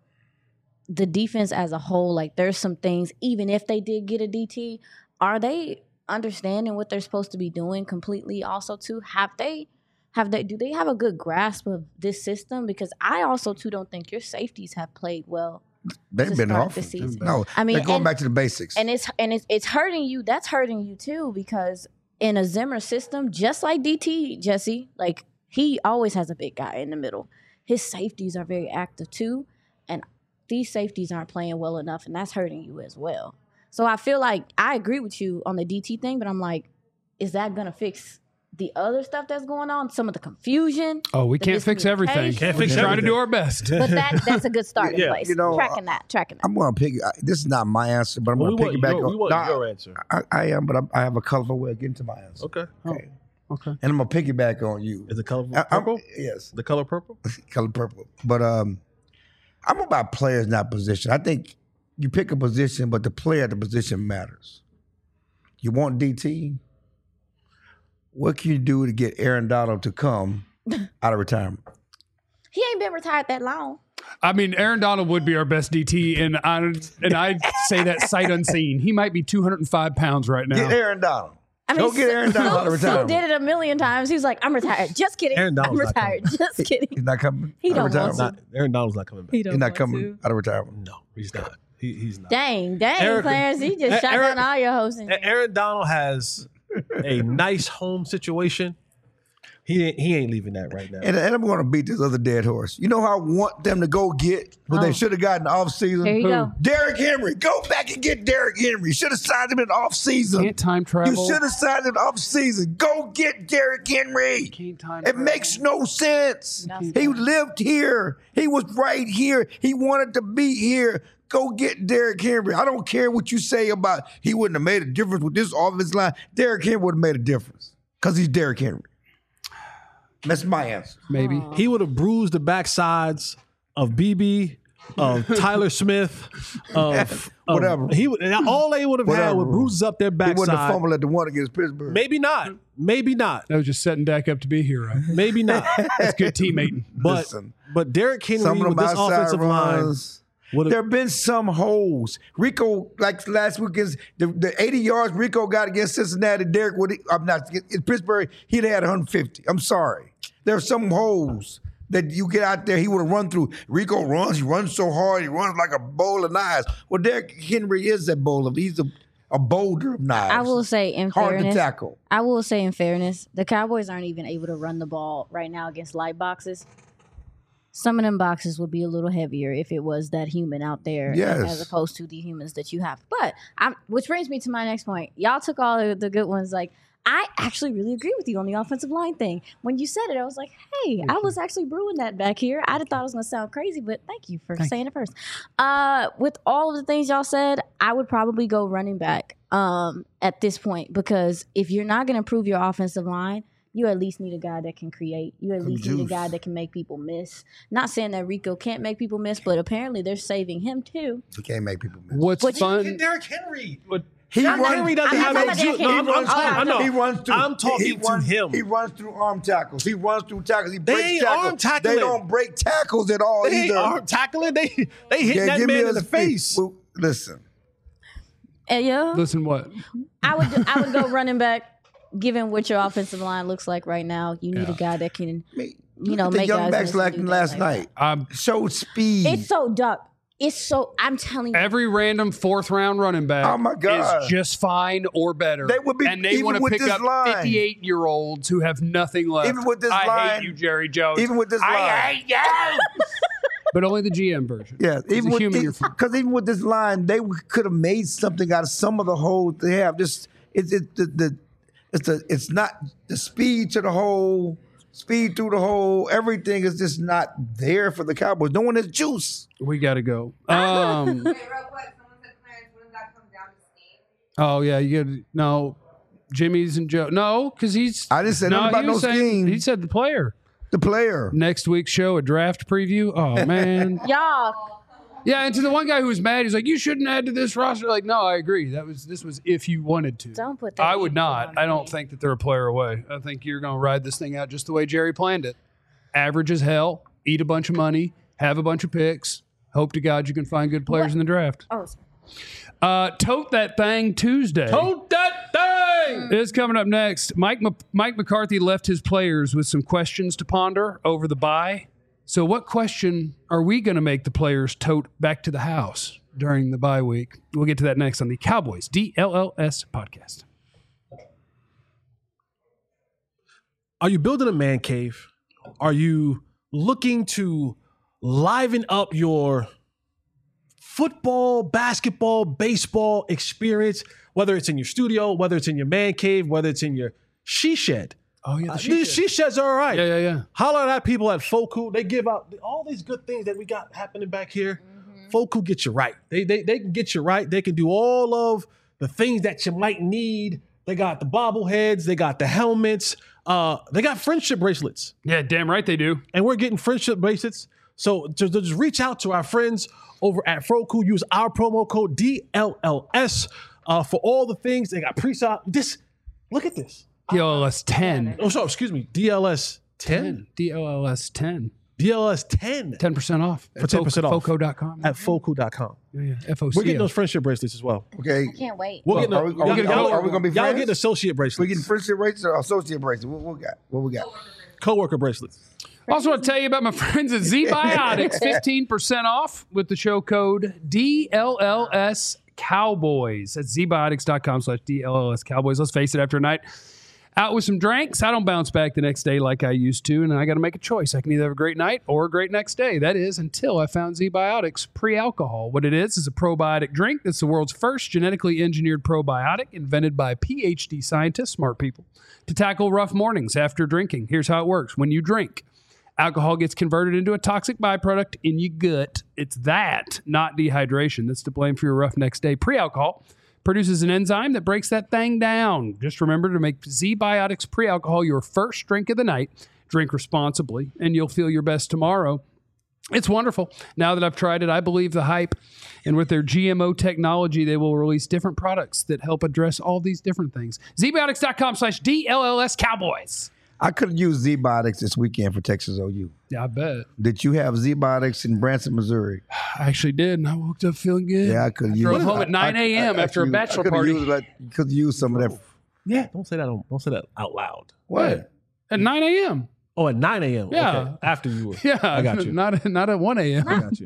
the defense as a whole, like there's some things, even if they did get a D T, are they understanding what they're supposed to be doing completely also too? Have they have they do they have a good grasp of this system? Because I also too don't think your safeties have played well. They've to been start off. the season. No, I mean, they're going and- back to the basics. And it's and it's it's hurting you. That's hurting you too, because in a Zimmer system, just like D T, Jesse, like he always has a big guy in the middle. His safeties are very active too, and these safeties aren't playing well enough, and that's hurting you as well. So I feel like I agree with you on the D T thing, but I'm like, is that gonna fix the other stuff that's going on? Some of the confusion. Oh, we the can't fix everything. miscommunication. Can't We're fix just trying to everything. do our best. But that that's a good starting Yeah, place. you know, tracking that, tracking that. I'm going to pick. I- This is not my answer, but I'm Well, going we to want, piggyback your, on. we want No, your answer. I, I am, but I'm, I have a colorful way of getting to my answer. Okay. Okay. Okay. And I'm going to piggyback on you. Is it color I- I'm- purple? yes, The color purple? color purple. But um, I'm about players, not position. I think you pick a position, but the player at the position matters. You want D T? What can you do to get Aaron Donald to come out of retirement? He ain't been retired that long. I mean, Aaron Donald would be our best D T, and I and I say that sight unseen. He might be two hundred five pounds right now. Get Aaron Donald. I mean, Go get Aaron Donald out of Sue retirement. did it a million times. He was like, "I'm retired." Just kidding. Aaron I'm Donald's not retired. Just kidding. He's not coming. He out of don't want retirement. Not, Aaron Donald's not coming back. He don't He's not want coming to. out of retirement. No, he's not. He, he's not. Dang, dang, Eric- Clarence. He just A- shot Eric- down all your hosts. in A- here. Aaron Donald has a nice home situation. He ain't, he ain't leaving that right now. And, and I'm going to beat this other dead horse. You know how I want them to go get what Oh. they should have gotten off season? Here you go. Derrick Henry. Go back and get Derrick Henry. You should have signed him in off season. Can't time You travel. should have signed him off season. Go get Derrick Henry. Can't time It travel. makes no sense. Nothing. He lived here. He was right here. He wanted to be here. Go get Derrick Henry. I don't care what you say about he wouldn't have made a difference with this offensive line. Derrick Henry would have made a difference because he's Derrick Henry. That's my answer. Maybe. He would have bruised the backsides of B B, of Tyler Smith, of Whatever. Of, he would, all they would have had Whatever. were bruises up their He wouldn't have backside. fumbled at the one against Pittsburgh. Maybe not. Maybe not. That was just setting Dak up to be a hero. Maybe not. That's good teammating. But Listen, but Derrick Henry some of with them this outside offensive line runs. would There have. have been some holes. Rico, like last week, is the, the eighty yards Rico got against Cincinnati. Derek would I'm not in Pittsburgh. He'd had one hundred fifty. I'm sorry. There are some holes that you get out there. He would have run through. Rico runs. He runs so hard. He runs like a bowl of knives. Well, Derek Henry is that bowl of. He's a, a boulder of knives. I will say, in hard fairness, to tackle. I will say, in fairness, the Cowboys aren't even able to run the ball right now against light boxes. Some of them boxes would be a little heavier if it was that human out there, Yes. as opposed to the humans that you have. But I'm, which brings me to my next point. Y'all took all of the good ones. Like, I actually really agree with you on the offensive line thing. When you said it, I was like, hey, I was actually brewing that back here. I thought it was going to sound crazy, but thank you for saying it first. Uh, with all of the things y'all said, I would probably go running back um, at this point, because if you're not going to improve your offensive line, you at least need a guy that can create. You at least need a juice. guy that can make people miss. Not saying that Rico can't make people miss, but apparently they're saving him too. He can't make people miss. What's But you fun? Derrick Henry. What, He I'm runs, Henry doesn't I'm have not no talking juice. about No, I'm, Derrick I'm, Henry. talking- I know. He runs through. I'm talking he, he to runs, him. He runs through arm tackles. He runs through tackles. He They breaks ain't tackles. arm tackling. They don't break tackles at all They ain't either. arm tackling. They they hit Yeah, that give me man a in the speed. face. Well, listen, And yeah, listen, what? I would do, I would go running back. Given what your offensive line looks like right now, you need Yeah. a guy that can, me, you know, the make young guys backs miss and like do last things like night. Um, Showed speed. It's so duck. It's so. I'm telling you. every random fourth round running back Oh, my God. is just fine or better. They would be- and they even want to with pick this up line. fifty-eight year olds who have nothing left. Even with this I line- hate you, Jerry Jones. even with this line. I hate you. But only the G M version. Yeah, It's even a with human you're from. because even with this line, they could have made something out of some of the holes they have. Just it's it, the, the it's the it's not the speed to the hole, speed through the hole. Everything is just not there for the Cowboys. No one has juice. We got to go. Um, Wait, real quick. Someone said Clarence, wouldn't that come down to scheme? oh yeah, you get no Jimmy's and Joe. No, because he's. I didn't say nothing no, about he no was saying- scheme. He said the player. The player. Next week's show, a draft preview. Oh man. Y'all, Yeah, and to the one guy who was mad, he's like, "You shouldn't add to this roster." Like, no, I agree. That was this was if you wanted to. don't put that. I would in not. on I don't me. think that they're a player away. I think you're going to ride this thing out just the way Jerry planned it. Average as hell, eat a bunch of money, have a bunch of picks. Hope to God you can find good players in the draft. Oh, Uh, Tote That Thing Tuesday. Tote that thing. Is coming up next. Mike M- Mike McCarthy left his players with some questions to ponder over the bye. So, what question are we going to make the players tote back to the house during the bye week? We'll get to that next on the Cowboys D L L S podcast. Are you building a man cave? Are you looking to liven up your football, basketball, baseball experience, whether it's in your studio, whether it's in your man cave, whether it's in your she shed? Oh, yeah. Uh, these she sheds are all right. Yeah, yeah, yeah. Holler at people at Foku. They give out all these good things that we got happening back here. Foku get you right. They, they they can get you right. They can do all of the things that you might need. They got the bobbleheads. They got the helmets. Uh, they got friendship bracelets. Yeah, damn right they do. And we're getting friendship bracelets. So to, to just reach out to our friends over at Foku. Use our promo code D L L S uh, for all the things. They got pre-op. This, look at this. D L L S ten. Oh, sorry, excuse me. D L S ten? D L L S ten. D L S ten ten percent off. For ten percent off. Foco dot com. at Foku dot com. Yeah, yeah. F O C O. We're getting those friendship bracelets as well. Okay. I can't wait. We're Well, getting are we- are we- y'all- are we- y'all- are we gonna be Y'all friends? getting associate We bracelets. getting friendship bracelets or associate bracelets? What, what we got? What we got? Co-worker bracelets. Also want to tell you about my friends at Z Biotics. fifteen percent off with the show code D L L S Cowboys. That's Z Biotics dot com slash D L L S Cowboys. Let's face it, after a night out with some drinks, I don't bounce back the next day like I used to, and I got to make a choice. I can either have a great night or a great next day. That is until I found Z Biotics pre-alcohol. What it is is a probiotic drink that's the world's first genetically engineered probiotic invented by P H D scientists, smart people, to tackle rough mornings after drinking. Here's how it works. When you drink, Alcohol gets converted into a toxic byproduct in your gut. It's that, not dehydration, that's to blame for your rough next day. Pre-alcohol produces an enzyme that breaks that thing down. Just remember to make Z-Biotics pre-alcohol your first drink of the night. Drink responsibly, and you'll feel your best tomorrow. It's wonderful. Now that I've tried it, I believe the hype. And with their G M O technology, they will release different products that help address all these different things. Z-Biotics.com slash D L L S Cowboys. I could have used Z-Biotics this weekend for Texas O U. Yeah, I bet. Did you have Z-Biotics in Branson, Missouri? I actually did, and I woke up feeling good. Yeah, I could have used Drove it. home at nine a.m. I- I- after a I bachelor could've party. used, like, you could have used some of that. Yeah, don't say that. On, don't say that out loud. What? At nine a.m. Oh, at nine a.m. Yeah. Okay. After you were. Yeah, I got you. Not, not at one a.m. I got you.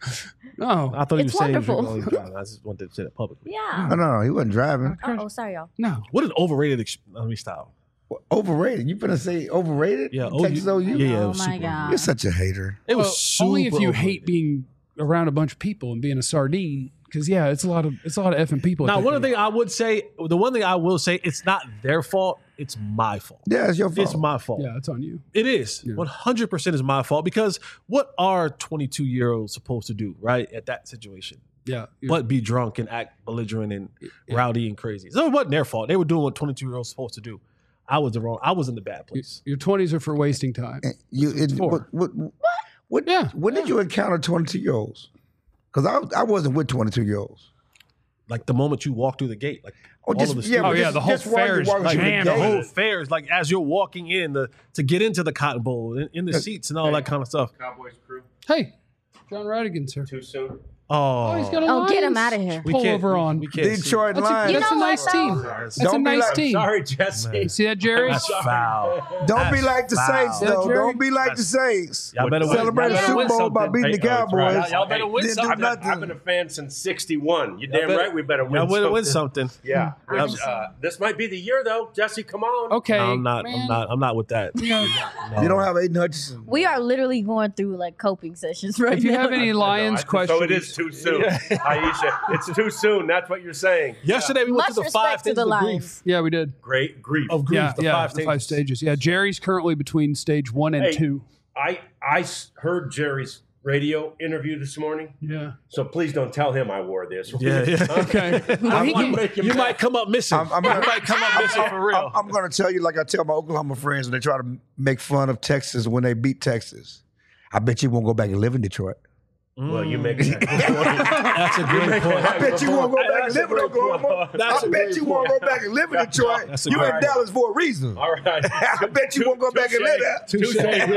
No, I thought he It's was saying wonderful. you were going driving. I just wanted to say that publicly. Yeah. No, no, no. He wasn't driving. Oh, oh, sorry, y'all. no. What an overrated ex- let me stop. Overrated. You finna say overrated? Yeah, Texas O U? Yeah, yeah. it Oh was my super- God. You're such a hater. It was Well, super only if you overrated. hate being around a bunch of people and being a sardine. Because yeah, it's a lot of it's a lot of effing people. at Now, that one of the thing. thing I would say, the one thing I will say, it's not their fault. It's my fault. Yeah, it's your fault. It's my fault. Yeah, it's on you. It is. Yeah. one hundred percent is my fault because what are twenty-two-year-olds supposed to do, right, at that situation? Yeah, you're- But be drunk and act belligerent and rowdy and crazy. So it wasn't their fault. They were doing what twenty-two-year-olds supposed to do. I was the wrong. I was in the bad place. your twenties are for wasting time. You, it, for. what, what, what, Yeah. when did you encounter twenty-two-year-olds? Because I, I wasn't with twenty-two-year-olds. Like the moment you walk through the gate, like Oh, all just, of the yeah, students. but Oh, yeah, just- the whole just while you're fair is walking through the jammed the gate. whole fair is like as you're walking in the to get into the Cotton Bowl in, in the seats and all that kind of stuff. Cowboys crew. Hey, John Radigan's here. Too soon. Oh, Oh, he's got a Oh, get him Lions outta here. We Pull can't- over on. we can't see. Detroit That's a, Lions. that's a know what, nice team. though? That's Don't a be nice like- team. Sorry, Jesse. You see that, Jerry? That's foul. Don't be That's like the foul. Saints, Yeah, though. Jerry. Don't be like the Saints. Y'all better win. Celebrate Y'all the better Super win Bowl by something. beating the Hey, oh, that's right. Cowboys. Y'all better win Didn't do something. I've been, I've nothing. been a fan since sixty-one. You Y'all damn better- right we better win Y'all better win something. something. Yeah. Y'all- Which, uh, this might be the year, though. Jesse, come on. Okay, No, I'm not. man. I'm not. I'm not with that. You know, You don't have Aiden Hutchinson. We are literally going through like coping sessions right if you now. have any I know, Lions I- questions, So it is too soon. Aisha, it's too soon. That's what you're saying. Yesterday we went Much to the five respect to things the of Lions. grief. yeah, we did. Great grief. Of grief. Yeah, the yeah, five the five stages. stages. Yeah, Jerry's currently between stage one and Hey. two. I, I s- heard Jerry's radio interview this morning, Yeah. so please don't tell him I wore this. Yeah, yeah. Okay. Well, I he want can- to make him You mad. might come up missing. I'm, I'm, you gonna, might come up missing for real. I'm, I'm going to tell you like I tell my Oklahoma friends when they try to make fun of Texas when they beat Texas. I bet you won't go back and live in Detroit. Well, you make that. That's a great point. I bet you won't go back and That's a live in great Oklahoma. point. That's I a bet great you won't go back and live in Detroit. That's a You great in Dallas for a reason. All right. I bet you won't go back and live there. Touche.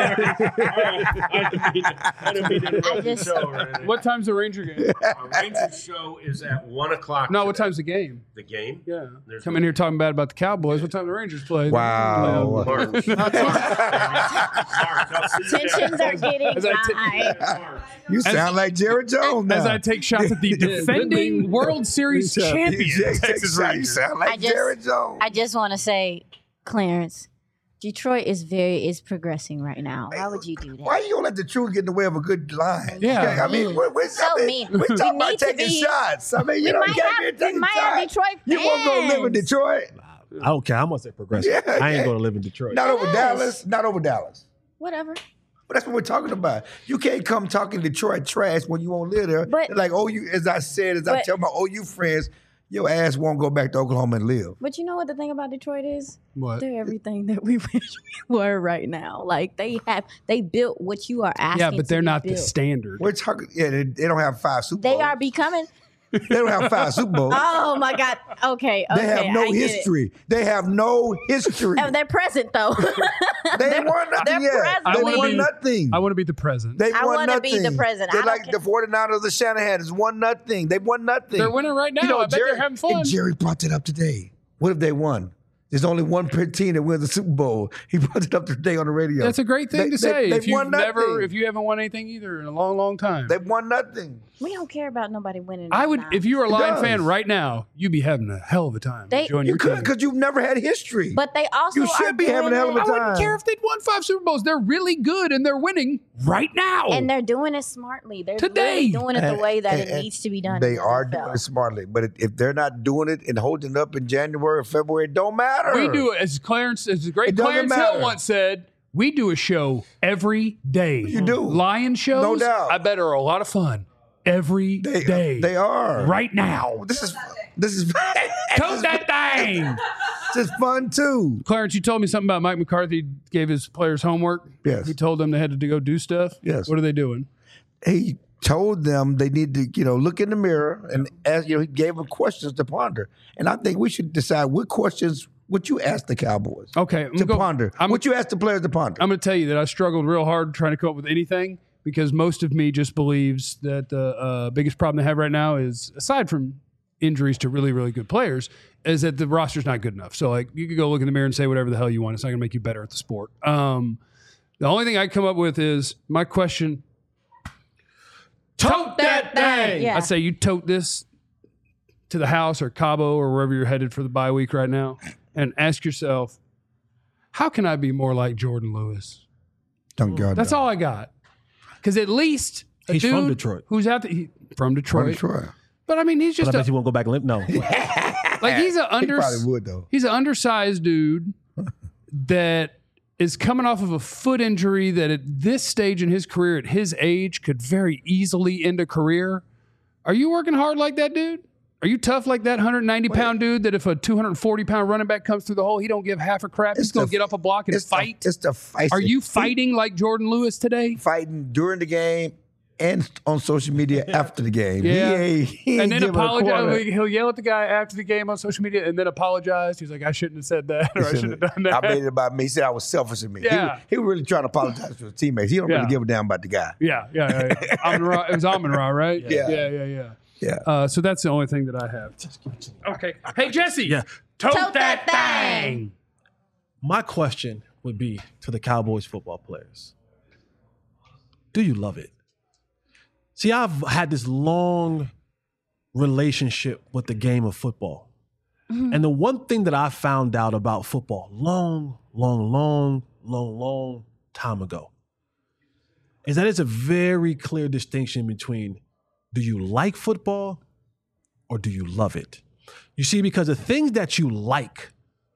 I didn't mean to- I didn't mean to interrupt I the just- show or anything. What time's the Ranger game? Our Rangers show is at one o'clock. No, what today. time's the game? The game? Yeah. There's Come in here talking bad about the Cowboys. What time the Rangers play? Wow. March. March. I'll see you Tensions there. are getting As I t- high. March. You sound like Jerry Jones now. As I take shots at the defending World Series champions, You Texas sound- You Rangers. sound like I just- Jerry Jones. I just want to say, Clarence, Detroit is very is progressing right now. Why would you do that? Why you gonna let the truth get in the way of a good line? Yeah. Okay, I mean, we're, we're, So I mean, mean. we're We talking about need to taking be- shots. I mean, you we know, might you can't have- be we taking might have shots. Detroit You won't go live in fans. Detroit. I don't care how much they progress. Yeah, I ain't yeah. going to live in Detroit. Not over Yes. Dallas. Not over Dallas. Whatever. But that's what we're talking about. You can't come talking Detroit trash when you won't live there. But- like, oh, you, as I said, as I but- tell my O U friends, your ass won't go back to Oklahoma and live. But you know what the thing about Detroit is? What? They're everything that we wish we were right now. Like they have, they built what you are asking. Yeah, but to they're be not the built. standard. We're talking. Yeah, they, they don't have five Super They Bowls. are becoming. They don't have five Super Bowls. Oh my God. Okay. They okay, have no I get it. history. They have no history. Oh, they're present though. They They're- won nothing they're yet. present. They I wanna won be- nothing. I want to be the president. They I won wanna be nothing. the president. They're I don't like the 49ers, the Shanahan's won nothing. They won nothing. They're winning right now. You know, I bet Jerry, they're having fun. and Jerry brought it up today. What if they won? There's only one per team that wins the Super Bowl. He brought it up today on the radio. That's a great thing They- to they- say. They, if you've won never, nothing. if you haven't won anything either in a long, long time, They won nothing. we don't care about nobody winning. I or would. not. If you were a It Lion does. fan right now, you'd be having a hell of a time. They- enjoying You your could team. because you've never had history. But they also You should are be having doing a hell of a I it- time. wouldn't care if they'd won five Super Bowls. They're really good and they're winning right now. and they're doing it smartly. They're Today. really doing it the And- way that and- it needs to be done. They in the are N F L. doing it smartly. But if they're not doing it and holding it up in January or February, it don't matter. we do it as Clarence, as the great It doesn't Clarence matter. Hill once said. We do a show every day. You do. Lion shows, No doubt. I bet are a lot of fun every They, day. they are. Right now. This is this is Tote that thing. this is fun too. Clarence, you told me something about Mike McCarthy gave his players homework. Yes. He told them they had to go do stuff. Yes. What are they doing? He told them they need to, you know, look in the mirror and ask, you know, he gave them questions to ponder. And I think we should decide what questions would you ask the Cowboys Okay. I'm to gonna go- ponder. I'm, What you ask the players to ponder. I'm going to tell you that I struggled real hard trying to come up with anything because most of me just believes that the uh, biggest problem they have right now is, aside from injuries to really, really good players, is that the roster's not good enough. So, like, you could go look in the mirror and say whatever the hell you want. It's not going to make you better at the sport. Um, the only thing I come up with is my question. Tote that thing. Yeah. I'd say you tote this to the house or Cabo or wherever you're headed for the bye week right now and ask yourself, how can I be more like Jordan Lewis? Thank God. That's all I got. Because at least a He's dude from Detroit. who's out there, he, from Detroit. From Detroit. But I mean, he's But just I bet a, you won't go back and live. No. like he's a He under, probably would though. he's an undersized dude that is coming off of a foot injury that at this stage in his career, at his age, could very easily end a career. Are you working hard like that, dude? Are you tough like that one hundred ninety pound dude that if a two hundred forty pound running back comes through the hole, he don't give half a crap? He's It's going the- to get off a block and It's fight? The, it's the fight. Are you fighting like Jordan Lewis today? Fighting during the game and on social media after the game. Yeah. He ain't, he ain't And then giving a quarter. apologize. He'll yell at the guy after the game on social media and then apologize. He's like, I shouldn't have said that or I shouldn't have done that. I made it about me. He said I was selfish of me. He Yeah. was- He, was really trying to apologize to his teammates. He don't Yeah. really give a damn about the guy. Yeah, yeah, yeah. yeah. Amon Ra, it was Amon Ra, right? Yeah. yeah, yeah, yeah. Yeah. Uh, so that's the only thing that I have. Okay. Hey, Jesse. Yeah. Tote, Tote that, that thing. My question would be to the Cowboys football players. Do you love it? See, I've had this long relationship with the game of football. And the one thing that I found out about football long, long, long, long, long time ago is that it's a very clear distinction between do you like football or do you love it? You see, because the things that you like,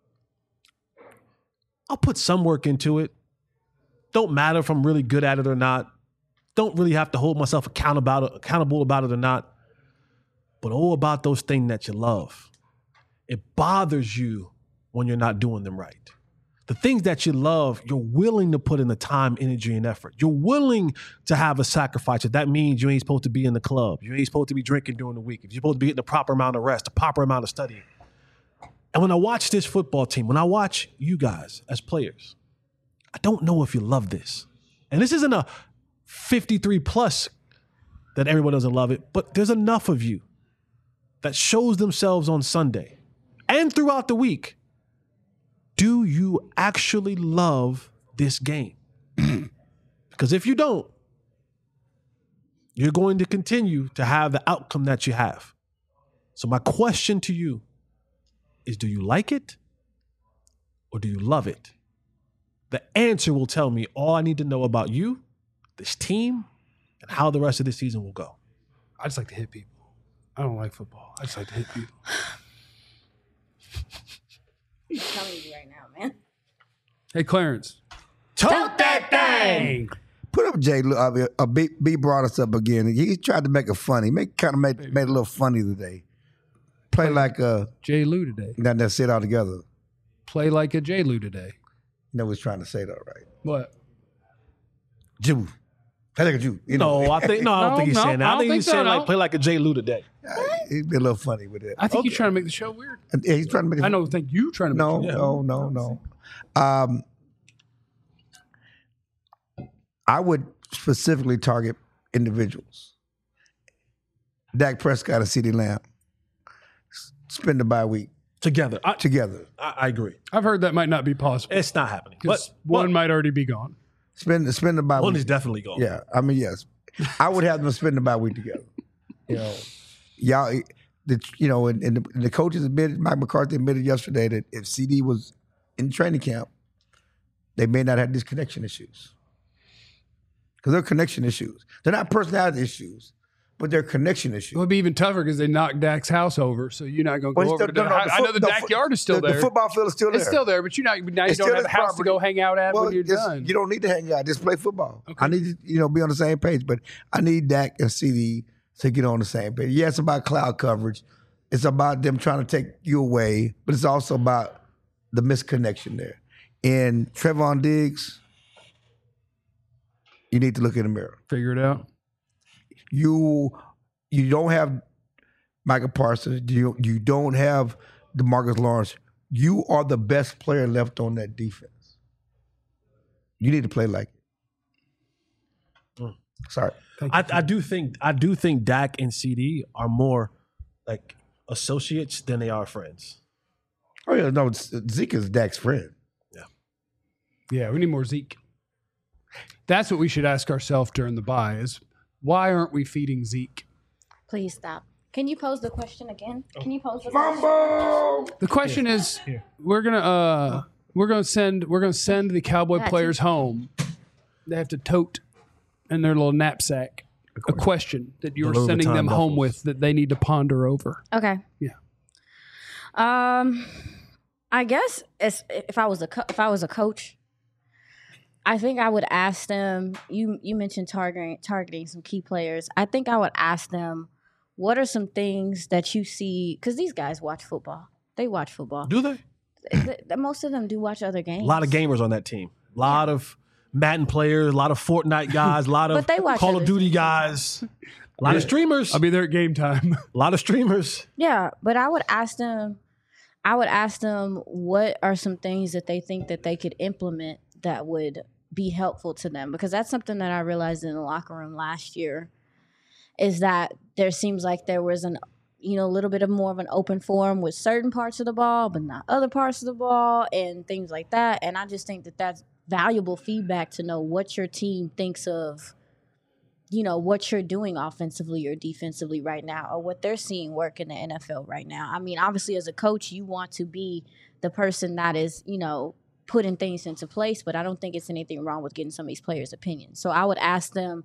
I'll put some work into it. Don't matter if I'm really good at it or not. Don't really have to hold myself accountable accountable about it or not. But oh, about those things that you love. It bothers you when you're not doing them right. The things that you love, you're willing to put in the time, energy, and effort. You're willing to have a sacrifice. If that means you ain't supposed to be in the club, you ain't supposed to be drinking during the week, if you're supposed to be getting the proper amount of rest, the proper amount of studying. And when I watch this football team, when I watch you guys as players, I don't know if you love this. And this isn't a fifty-three plus that everyone doesn't love it, but there's enough of you that shows themselves on Sunday and throughout the week. Do you actually love this game? Because if you don't, you're going to continue to have the outcome that you have. So my question to you is, do you like it or do you love it? The answer will tell me all I need to know about you, this team, and how the rest of the season will go. I just like to hit people. I don't like football. I just like to hit people. I'm telling you right now, man. Hey, Clarence. Tote that thing! Put up Jay. Lu- Uh, uh, B, B brought us up again. He tried to make it funny. Make kind of made, made it a little funny today. Play like uh, J. Lou today. not that sit all together. Play like a J. Lou today. You know what he's trying to say though, right? What? Jew. Play like a Jew. You know, No, I think no, I don't No, think he's no, saying that. I I, don't think think he's so, saying no. like play like a J. Lou today. he's been a little funny with it. I think he's Okay. trying to make the show weird. And, yeah, he's trying to make it. I know. Think you trying to make No, the show no, no, no. Um, I would specifically target individuals. Dak Prescott and CeeDee Lamb. S- Spend the bye week Together. I, together. I, I agree. I've heard that might not be possible. It's not happening. But Because one one, might already be gone. Spend spend the bye one week. is definitely gone. Yeah, I mean, yes. I would have them spend the bye week together. You know, y'all, the, you know, and, and, the, and the coaches admitted, Mike McCarthy admitted yesterday that if C D was in training camp, they may not have these connection issues. Because they're connection issues. They're not personality issues, but their connection It issue. would be even tougher because they knocked Dak's house over, so you're not going to Well, go it's over to still- the no, no, I, the I know foot- the the backyard is still the, there. The football field is still there. It's still there, but you, not, now you It's don't still have a his house to property. go hang out at Well, when you're just- done. You don't need to hang out. Just play football. Okay. I need to, you know, be on the same page. But I need Dak and C D to get on the same page. Yeah, it's about cloud coverage. It's about them trying to take you away, but it's also about the misconnection there. And Trevon Diggs, you need to look in the mirror. Figure it out. You you don't have Michael Parsons. You you don't have DeMarcus Lawrence. You are the best player left on that defense. You need to play like it. Mm. Sorry. I, I do think I do think Dak and C D are more like associates than they are friends. Oh yeah, no, Zeke is Dak's friend. Yeah, we need more Zeke. That's what we should ask ourselves during the bye is why aren't we feeding Zeke? Please stop. Can you pose the question again? Can you pose the Fumble! The question is we're gonna uh we're gonna send we're gonna send the Cowboy Gotcha. players home. They have to tote in their little knapsack a question that you're Louis sending Vuitton them home duffels. with that they need to ponder over. Okay. Yeah. Um, I guess as, if I was a co- if I was a coach, I think I would ask them. You you mentioned targeting targeting some key players. I think I would ask them, what are some things that you see? Because these guys watch football. They watch football. Do they? Th- th- Most of them do watch other games. A lot of gamers on that team. A lot of Madden players, a lot of Fortnite guys, a lot of But they watch Call other of Duty things. guys, a lot of streamers, I'll be there at game time. a lot of streamers. Yeah, but I would ask them. I would ask them what are some things that they think that they could implement that would be helpful to them, because that's something that I realized in the locker room last year is that there seems like there was an you know a little bit of more of an open forum with certain parts of the ball but not other parts of the ball and things like that. And I just think that that's valuable feedback to know what your team thinks of you know what you're doing offensively or defensively right now, or what they're seeing work in the N F L right now. I mean, obviously as a coach you want to be the person that is you know putting things into place, but I don't think it's anything wrong with getting some of these players' opinions. So I would ask them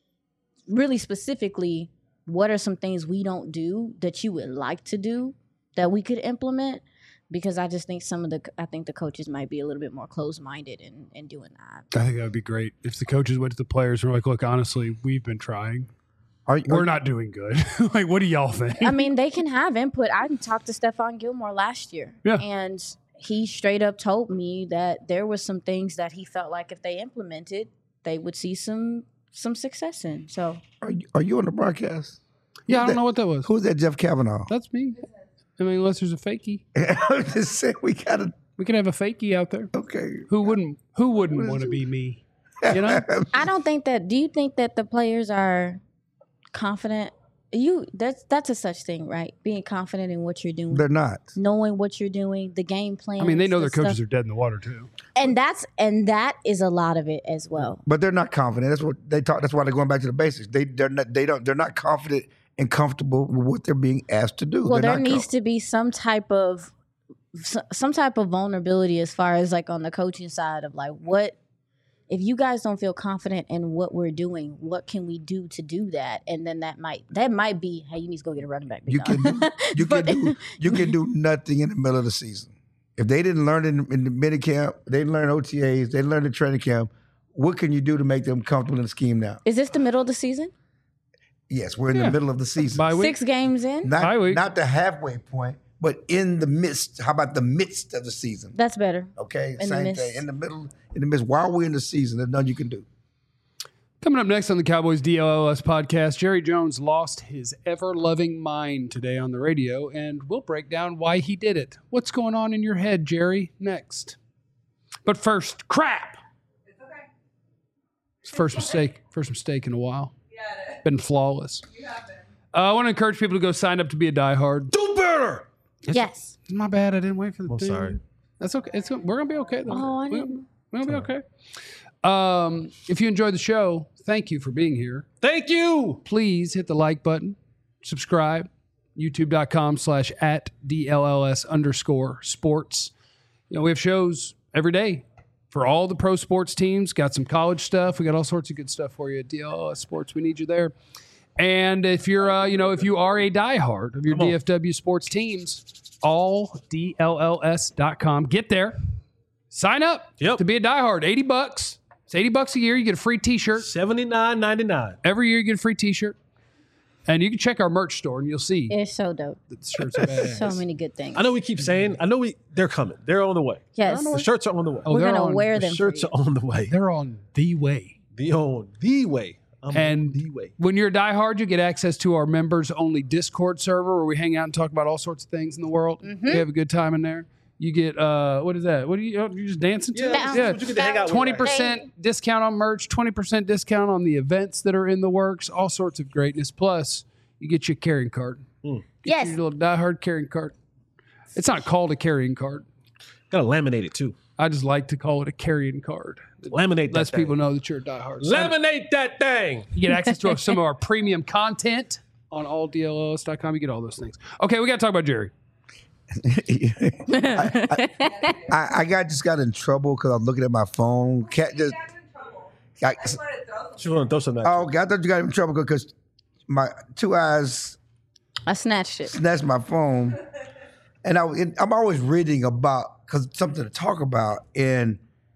really specifically, what are some things we don't do that you would like to do that we could implement? Because I just think some of the, I think the coaches might be a little bit more closed-minded in, in doing that. I think that would be great if the coaches went to the players and were like, "Look, honestly, we've been trying. Are, are, We're not doing good. Like, what do y'all think?" I mean, they can have input. I talked to Stephon Gilmore last year. Yeah. And he straight up told me that there were some things that he felt like if they implemented, they would see some some success in. So are, you, are you on the broadcast? Yeah, I don't that? know what that was. Who's that Jeff Kavanaugh? That's me. I mean, unless there's a fakie, I'm just saying we gotta we can have a fakie out there. okay. Who wouldn't? Who wouldn't want to be me? You know. I don't think that. Do you think that the players are confident? You that's that's a such thing, right? Being confident in what you're doing, They're not. knowing what you're doing, the game plan. I mean, they know their coaches are dead in the water too. and that's and that is a lot of it as well. But they're not confident. That's what they talk. That's why they're going back to the basics. They they're not. They don't. They're not confident and comfortable with what they're being asked to do. Well, They're there not needs com- to be some type of some type of vulnerability as far as like on the coaching side of like what if you guys don't feel confident in what we're doing, what can we do to do that? And then that might that might be, hey, you need to go get a running back. big You dog. can do, you But- can do you can do nothing in the middle of the season. If they didn't learn in, in the mini camp, they didn't learn O T As, they didn't learn the training camp. What can you do to make them comfortable in the scheme now? Is this the middle of the season? Yes, we're in Yeah. the middle of the season. Bye week. Six games in? Not, Bye week. not the halfway point, but in the midst. How about the midst of the season? That's better. Okay, In the same midst. thing. In the middle, in the midst. While we're in the season, there's nothing you can do. Coming up next on the Cowboys D L L S podcast, Jerry Jones lost his ever-loving mind today on the radio, and we'll break down why he did it. What's going on in your head, Jerry? Next. But first, crap. It's okay. It's the first mistake. First mistake in a while. Yeah, Been flawless. you have been. Uh, I want to encourage people to go sign up to be a diehard. Do better. Yes. It's my bad. I didn't wait for the I'm thing. sorry. That's okay. It's we're gonna be okay though. Oh, I We're- didn't- We're gonna be okay. Um, if you enjoyed the show, thank you for being here. Thank you. Please hit the like button, subscribe, youtube.com slash at DLLS underscore sports. You know, we have shows every day for all the pro sports teams. Got some college stuff. We got all sorts of good stuff for you at D L L S Sports. We need you there. And if you're, uh, you know, if you are a diehard of your Come on. D F W sports teams, all D L L S dot com. Get there. Sign up Yep. to be a diehard. eighty bucks. It's eighty bucks a year. You get a free t-shirt. seventy-nine ninety-nine. Every year you get a free t-shirt. And you can check our merch store and you'll see It's so dope. that the shirts are badass. So many good things. I know we keep saying, I know we they're coming. They're on the way. Yes. The shirts are on the way. Oh, We're they're gonna on- wear the them. shirts for are on the way. They're on the way. The on the way. I'm And on the way. when you're a diehard, you get access to our members only Discord server where we hang out and talk about all sorts of things in the world. Mm-hmm. We have a good time in there. You get uh, what is that? What are you? You just dancing to? Yeah, it? that's yeah. what you get to hang out with. Twenty percent discount on merch. Twenty percent discount on the events that are in the works. All sorts of greatness. Plus, you get your carrying card. Get Yes. your little diehard carrying card. It's not called a carrying card. Gotta laminate it too. I just like to call it a carrying card. Laminate that Lets thing. people know that you're a diehard. So Laminate that thing. you get access to some of our premium content on all D L L S dot com. You get all those things. Okay, we got to talk about Jerry. I, I, I got just got in trouble because I'm looking at my phone. Cat just. I, She want to throw something. oh, I thought you got in trouble because my two eyes I snatched it. snatched my phone, and I and I'm always reading about because something to talk about. And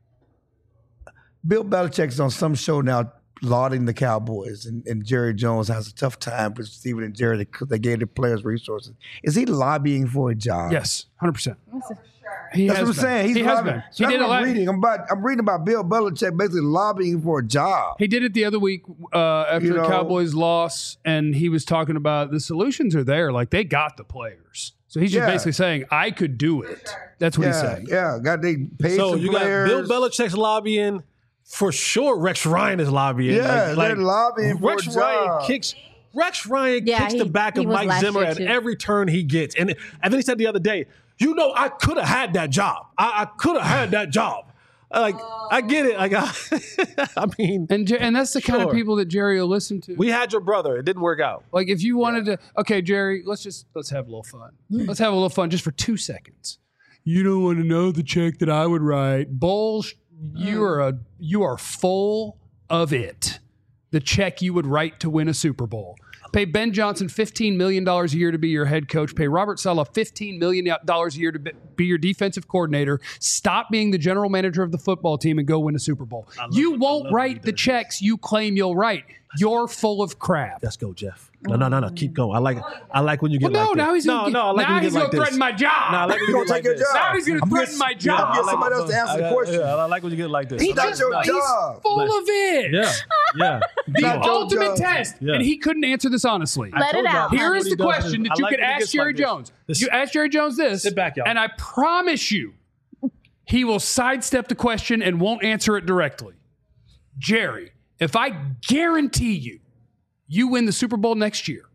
Bill Belichick's on some show now lauding the Cowboys, and, and Jerry Jones has a tough time with Steven and Jerry because they gave the players resources. Is he lobbying for a job? Yes, one hundred percent. He That's has what I'm been. saying. He's he has lobbying. been. He That's did it what I'm la- reading. I'm about. I'm reading about Bill Belichick basically lobbying for a job. He did it the other week uh, after You the know- Cowboys loss, and he was talking about the solutions are there. Like they got the players, so he's just Yeah. basically saying, "I could do it." That's what he's Yeah, saying. yeah. Got they paid So some you players. got Bill Belichick's lobbying. For sure, Rex Ryan is lobbying. Yeah, they're lobbying for Rex a Ryan job. kicks. Rex Ryan Yeah, kicks he- the back he of was Mike last Zimmer year, at too. every turn he gets, and and then he said the other day, "You know, I could have had that job. I, I could have had that job." Like I get it. Like I, I mean, And Jer- and that's the kind of Sure. people that Jerry will listen to. we had your brother. It didn't work out. Like if you wanted to, okay, Jerry, let's just let's have a little fun. Let's have a little fun just for two seconds. You don't want to know the check that I would write. Bulls, you are a you are full of it. The check you would write to win a Super Bowl. Pay Ben Johnson fifteen million dollars a year to be your head coach. Pay Robert Saleh fifteen million dollars a year to be- be your defensive coordinator. Stop being the general manager of the football team and go win a Super Bowl. You won't write the checks you claim you'll write. You're full of crap. Let's go, Jeff. No, no, no, no. Keep going. I like. I like when you get Well, no, like now this. he's gonna no, no. I like now when you he's get gonna like this. threaten my job. Nah, I like when you You're get gonna like take your this. job. Now he's gonna I'm threaten just- my Yeah, job. I'm get somebody else to answer the I- question. Yeah, I like when you get like this. He I like- not your like- job. Full of it. Yeah, yeah. The Not your ultimate job. test. Yeah. And he couldn't answer this honestly. I Let told it y'all, out. this Here what is he the does. question that I you like could when he ask gets Jerry like this. Jones. This- You ask Jerry Jones this, Sit back, y'all. and I promise you, he will sidestep the question and won't answer it directly. Jerry, if I guarantee you, you win the Super Bowl next year,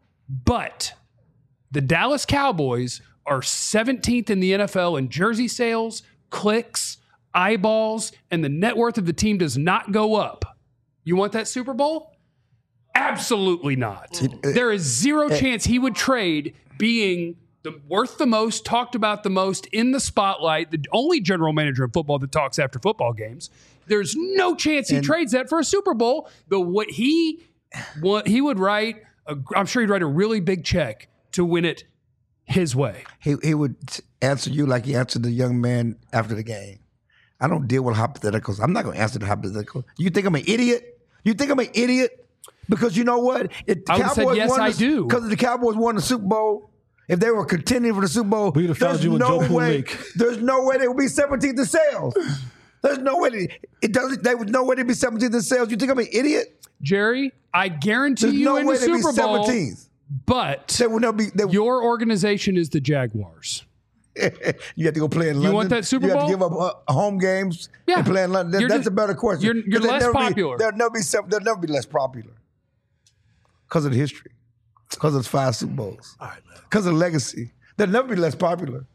but the Dallas Cowboys are seventeenth in the N F L in jersey sales, clicks, eyeballs, and the net worth of the team does not go up. You want that Super Bowl? Absolutely not. There is zero chance he would trade being the worth the most, talked about the most, in the spotlight, the only general manager of football that talks after football games. There's no chance he trades that for a Super Bowl. The what he what he would write, a, I'm sure he'd write a really big check to win it his way. He he would answer you like he answered the young man after the game. I don't deal with hypotheticals. I'm not going to answer the hypothetical. You think I'm an idiot? You think I'm an idiot? Because you know what? If the I would've said, yes, won I the, do. Because the Cowboys won the Super Bowl, if they were contending for the Super Bowl, We'd have found there's you in no Joe way. League. There's no way they would be seventeenth in sales. There's no way. They, it doesn't. They would no way they'd be seventeenth in sales. You think I'm an idiot? Jerry, I guarantee There's you no in way the they'd be Super Bowl, seventeenth. but They would never be. They, your organization is the Jaguars. you have to go play in London. want that Super You have Bowl? to give up uh, home games Yeah. and play in London. That- You're that's just- a better question. you're- you're 'Cause they'll less never be- popular. They'll never be. sev- They'll never be less popular because of the history, because of the five Super Bowls, All right, man. because of the legacy. They'll never be less popular.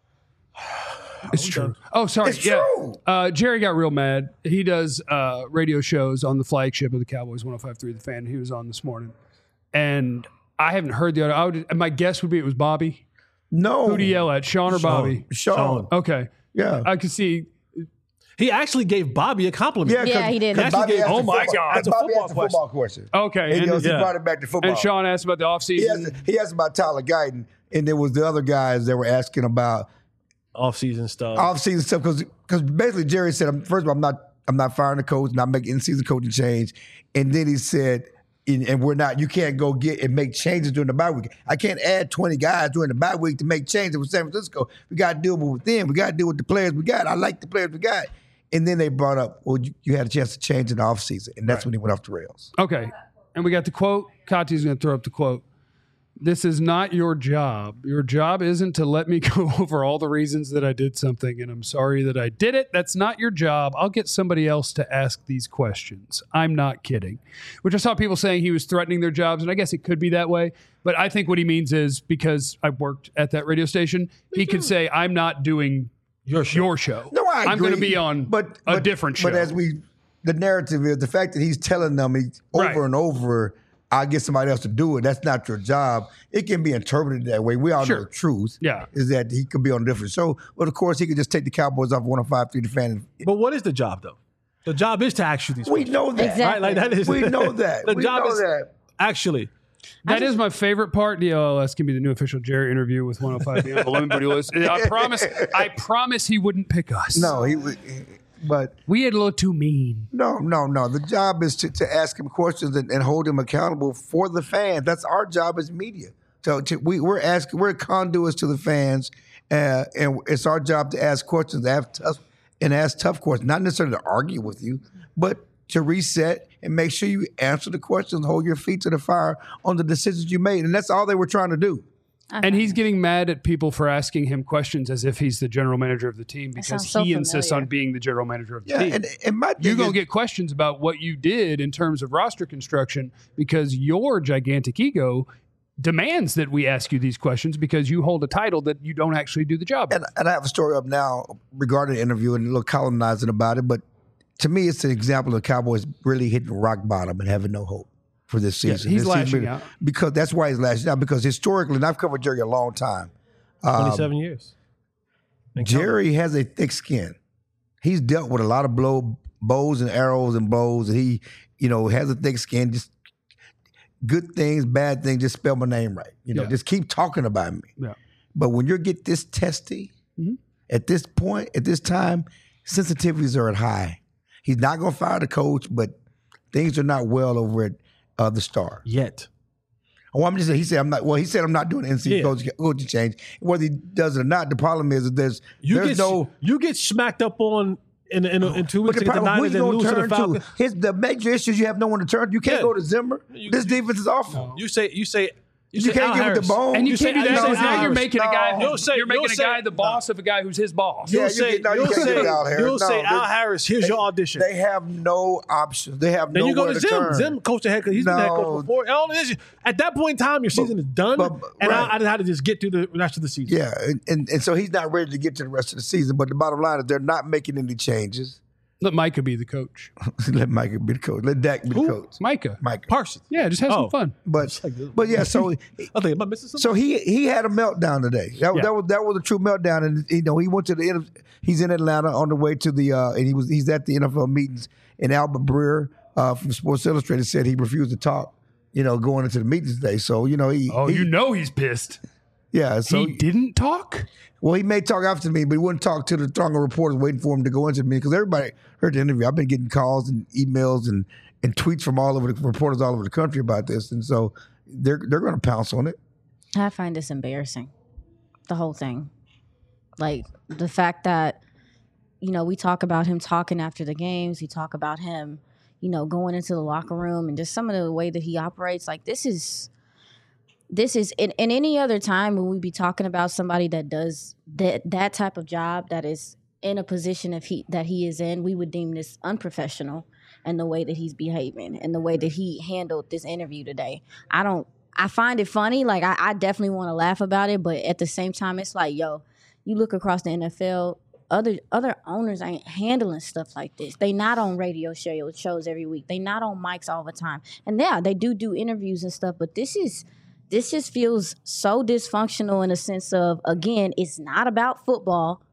It's true. Oh, sorry. It's yeah. true. Uh, Jerry got real mad. He does uh, radio shows on the flagship of the Cowboys, one oh five point three The Fan. He was on this morning. And I haven't heard the other. I would, my guess would be it was Bobby. No. Who'd he yell at? Sean or Bobby? Sean. Okay. Yeah. I could see. He actually gave Bobby a compliment. Yeah, 'cause- Yeah, he did. because He actually Bobby gave- asked oh the my football- God. That's a Bobby football asked the football question. Okay, And, he, and, goes, he yeah. brought it back to football. and Sean asked about the offseason. he, asked, he asked about Tyler Guyton, and there was the other guys that were asking about Off-season stuff. off-season stuff because because basically Jerry said, I'm- first of all, I'm not I'm not firing the coach, not making in-season coaching change, and then he said, and, and we're not. You can't go get and make changes during the bye week. I can't add twenty guys during the bye week to make changes with San Francisco. We got to deal with them. We got to deal with the players we got. I like the players we got. And then they brought up, well, you, you had a chance to change in the offseason, and that's when he went off the rails. Okay. And we got the quote. Kati's going to throw up the quote. This is not your job. Your job isn't to let me go over all the reasons that I did something, and I'm sorry that I did it. That's not your job. I'll get somebody else to ask these questions. I'm not kidding. Which I saw people saying he was threatening their jobs, and I guess it could be that way. But I think what he means is, because I worked at that radio station, he could say, I'm not doing Your show. your show. No, I agree. I'm going to be on but, a but- different show. But as we, the narrative is the fact that he's telling them he, over Right. and over, I'll get somebody else to do it. That's not your job. It can be interpreted that way. We all Sure. know the truth. Yeah. Is that he could be on a different show. But of course, he could just take the Cowboys off one oh five three the fan. But what is the job, though? The job is to ask you these We questions. know that. Exactly. Right? Like that is We know that. the We job know is that. actually. That is my favorite part. The L L S can be the new official Jerry interview with one oh five Beyond the Limit Booty List. I promise, I promise he wouldn't pick us. No, he would. But We had a little too mean. no, no, no. The job is to, to ask him questions and, and hold him accountable for the fans. That's our job as media. So to, we, we're asking, we're conduits to the fans, uh, and it's our job to ask questions, to have tough, and ask tough questions. Not necessarily to argue with you, but to reset and make sure you answer the questions, hold your feet to the fire on the decisions you made, and that's all they were trying to do. And he's getting mad at people for asking him questions as if he's the general manager of the team because sounds so he insists familiar. on being the general manager of the Yeah, team. and, and my You're thing going is- to get questions about what you did in terms of roster construction because your gigantic ego demands that we ask you these questions because you hold a title that you don't actually do the job. And, and I have a story up now regarding the interview and a little colonizing about it. But to me, it's an example of the Cowboys really hitting rock bottom and having no hope for this season. he's This lashing season, out. because that's why he's lashing out. Because historically, and I've covered Jerry a long time. um, twenty-seven years. And Jerry has a thick skin. He's dealt with a lot of blow, bows and arrows and blows. And he, you know, has a thick skin. Just good things, bad things. Just spell my name right. You know, Yeah. just keep talking about me. Yeah. But when you get this testy, Mhm. at this point, at this time, sensitivities are at high. He's not going to fire the coach, but things are not well over at uh, the Star. Yet. Oh, I'm just saying. He said I'm not. Well, he said I'm not doing N C Yeah. coach coaching change. Whether he does it or not, the problem is that there's You there's get no. you get smacked up on in in, in two But weeks the against the problem, who Niners you and going lose to to the turn Falcons. to? His the major issues you have no one to turn. You can't Yeah. go to Zimmer. You- this defense is awful. You say you say you, You say can't Al give it the Harris. bone. And you, You can't say- do that you say because now Al you're Harris. making a No. guy. You'll say- you're making you'll a say- guy the boss of a guy who's his boss. Yeah, You'll you say, get- no, you you'll can't say, give it Al Harris. you'll say No, Al they- Harris, here's your audition. They have no options. They have Then you go nowhere to to Zim. turn. Zim coach the head coach. He's been the head No. coach before. All this, at that point in time, your season is done, but- and right. I, I just had to just get through the rest of the season. Yeah, and, and, and so he's not ready to get to the rest of the season. But the bottom line is they're not making any changes. Let Micah be the coach. Let Micah be the coach. Let Dak be Who? the coach. Micah. Micah. Parsons. Yeah, just have Oh. some fun. But like this. but yeah, so I think am I missing something? so he he had a meltdown today. That, Yeah. that was that was a true meltdown, and you know he went to the end. He's in Atlanta on the way to the uh, and he was he's at the N F L meetings. And Albert Breer uh, from Sports Illustrated said he refused to talk. You know, going into the meetings today. So you know he. Oh, he, you know he's pissed. yeah. So he didn't talk? well, he may talk after me, but he wouldn't talk to the throng of reporters waiting for him to go into the meeting because everybody heard the interview. I've been getting calls and emails and, and tweets from all over the reporters all over the country about this, and so they're they're going to pounce on it. I find this embarrassing, the whole thing. Like the fact that, you know, we talk about him talking after the games. We talk about him, you know, going into the locker room and just some of the way that he operates. Like this is, this is in, in any other time when we be talking about somebody that does that that type of job that is in a position of he that he is in, we would deem this unprofessional and the way that he's behaving and the way that he handled this interview today. I don't. I find it funny. Like I, I definitely want to laugh about it, but at the same time, it's like, yo, you look across the N F L. Other other owners ain't handling stuff like this. They not on radio show, shows every week. They not on mics all the time. And yeah, they do do interviews and stuff. But this is this just feels so dysfunctional in a sense of, again, it's not about football.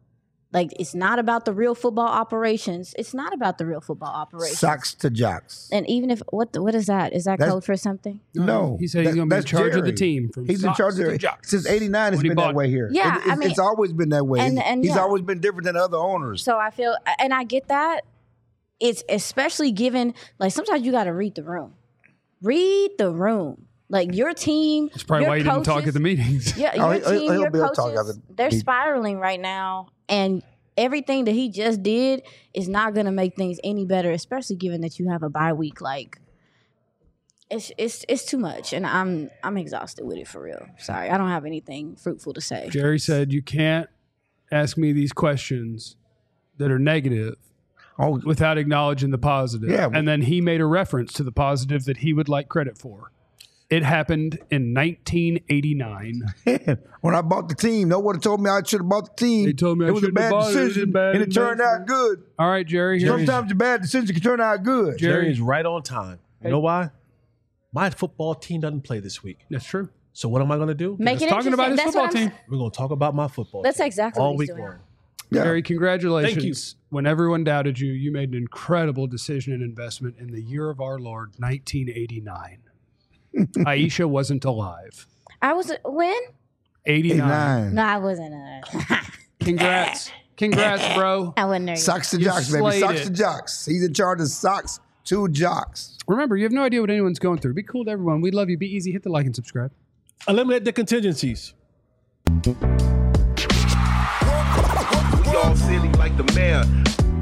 Like, it's not about the real football operations. It's not about the real football operations. Socks to jocks. And even if what the, what is that? Is that That's- code for something? No, He said he's that- going to be in that's charge of the Jerry. team. From He's in socks charge to of it jocks. since eighty-nine. It's When he been bought- that way here. Yeah, It- it's, I mean- it's always been that way. And- and He's yeah. always been different than other owners. So I feel, and I get that. It's especially given, like, sometimes you got to read the room. Read the room. Like, your team. That's probably your why you didn't talk coaches- at the meetings. Yeah, Oh, your he- he'll- team, he'll your be able to talk coaches, after they're meeting. spiraling right now, and everything that he just did is not going to make things any better, especially given that you have a bye week. Like, it's it's it's too much, and I'm I'm exhausted with it for real. Sorry, I don't have anything fruitful to say. Jerry said, you can't ask me these questions that are negative Oh, without acknowledging the positive. Yeah. And then he made a reference to the positive that he would like credit for. It happened in nineteen eighty-nine. when I bought the team, no one told me I should have bought the team. They told me I it was a shouldn't have bad bought it. It was a decision, bad and it turned out investment. good. All right, Jerry. here's- Sometimes a bad decision can turn out good. Jerry- Jerry is right on time. You know why? My football team doesn't play this week. That's true. So what am I going to do? Make it talking about his interesting. That's football what I'm team. s- We're going to talk about my football That's team exactly all what he's week doing. long. Yeah. Jerry, congratulations. Thank you. When everyone doubted you, you made an incredible decision and investment in the year of our Lord, nineteen eighty-nine. Aisha wasn't alive. I was when? eighty-nine. Eighty-nine. No, I wasn't. Uh, Congrats. Congrats, bro. I wasn't there. yet. Socks to You jocks, baby. slayed Socks it. to jocks. He's in charge of socks to jocks. Remember, you have no idea what anyone's going through. Be cool to everyone. We love you. Be easy. Hit the like and subscribe. Eliminate the contingencies. We all silly like the mayor.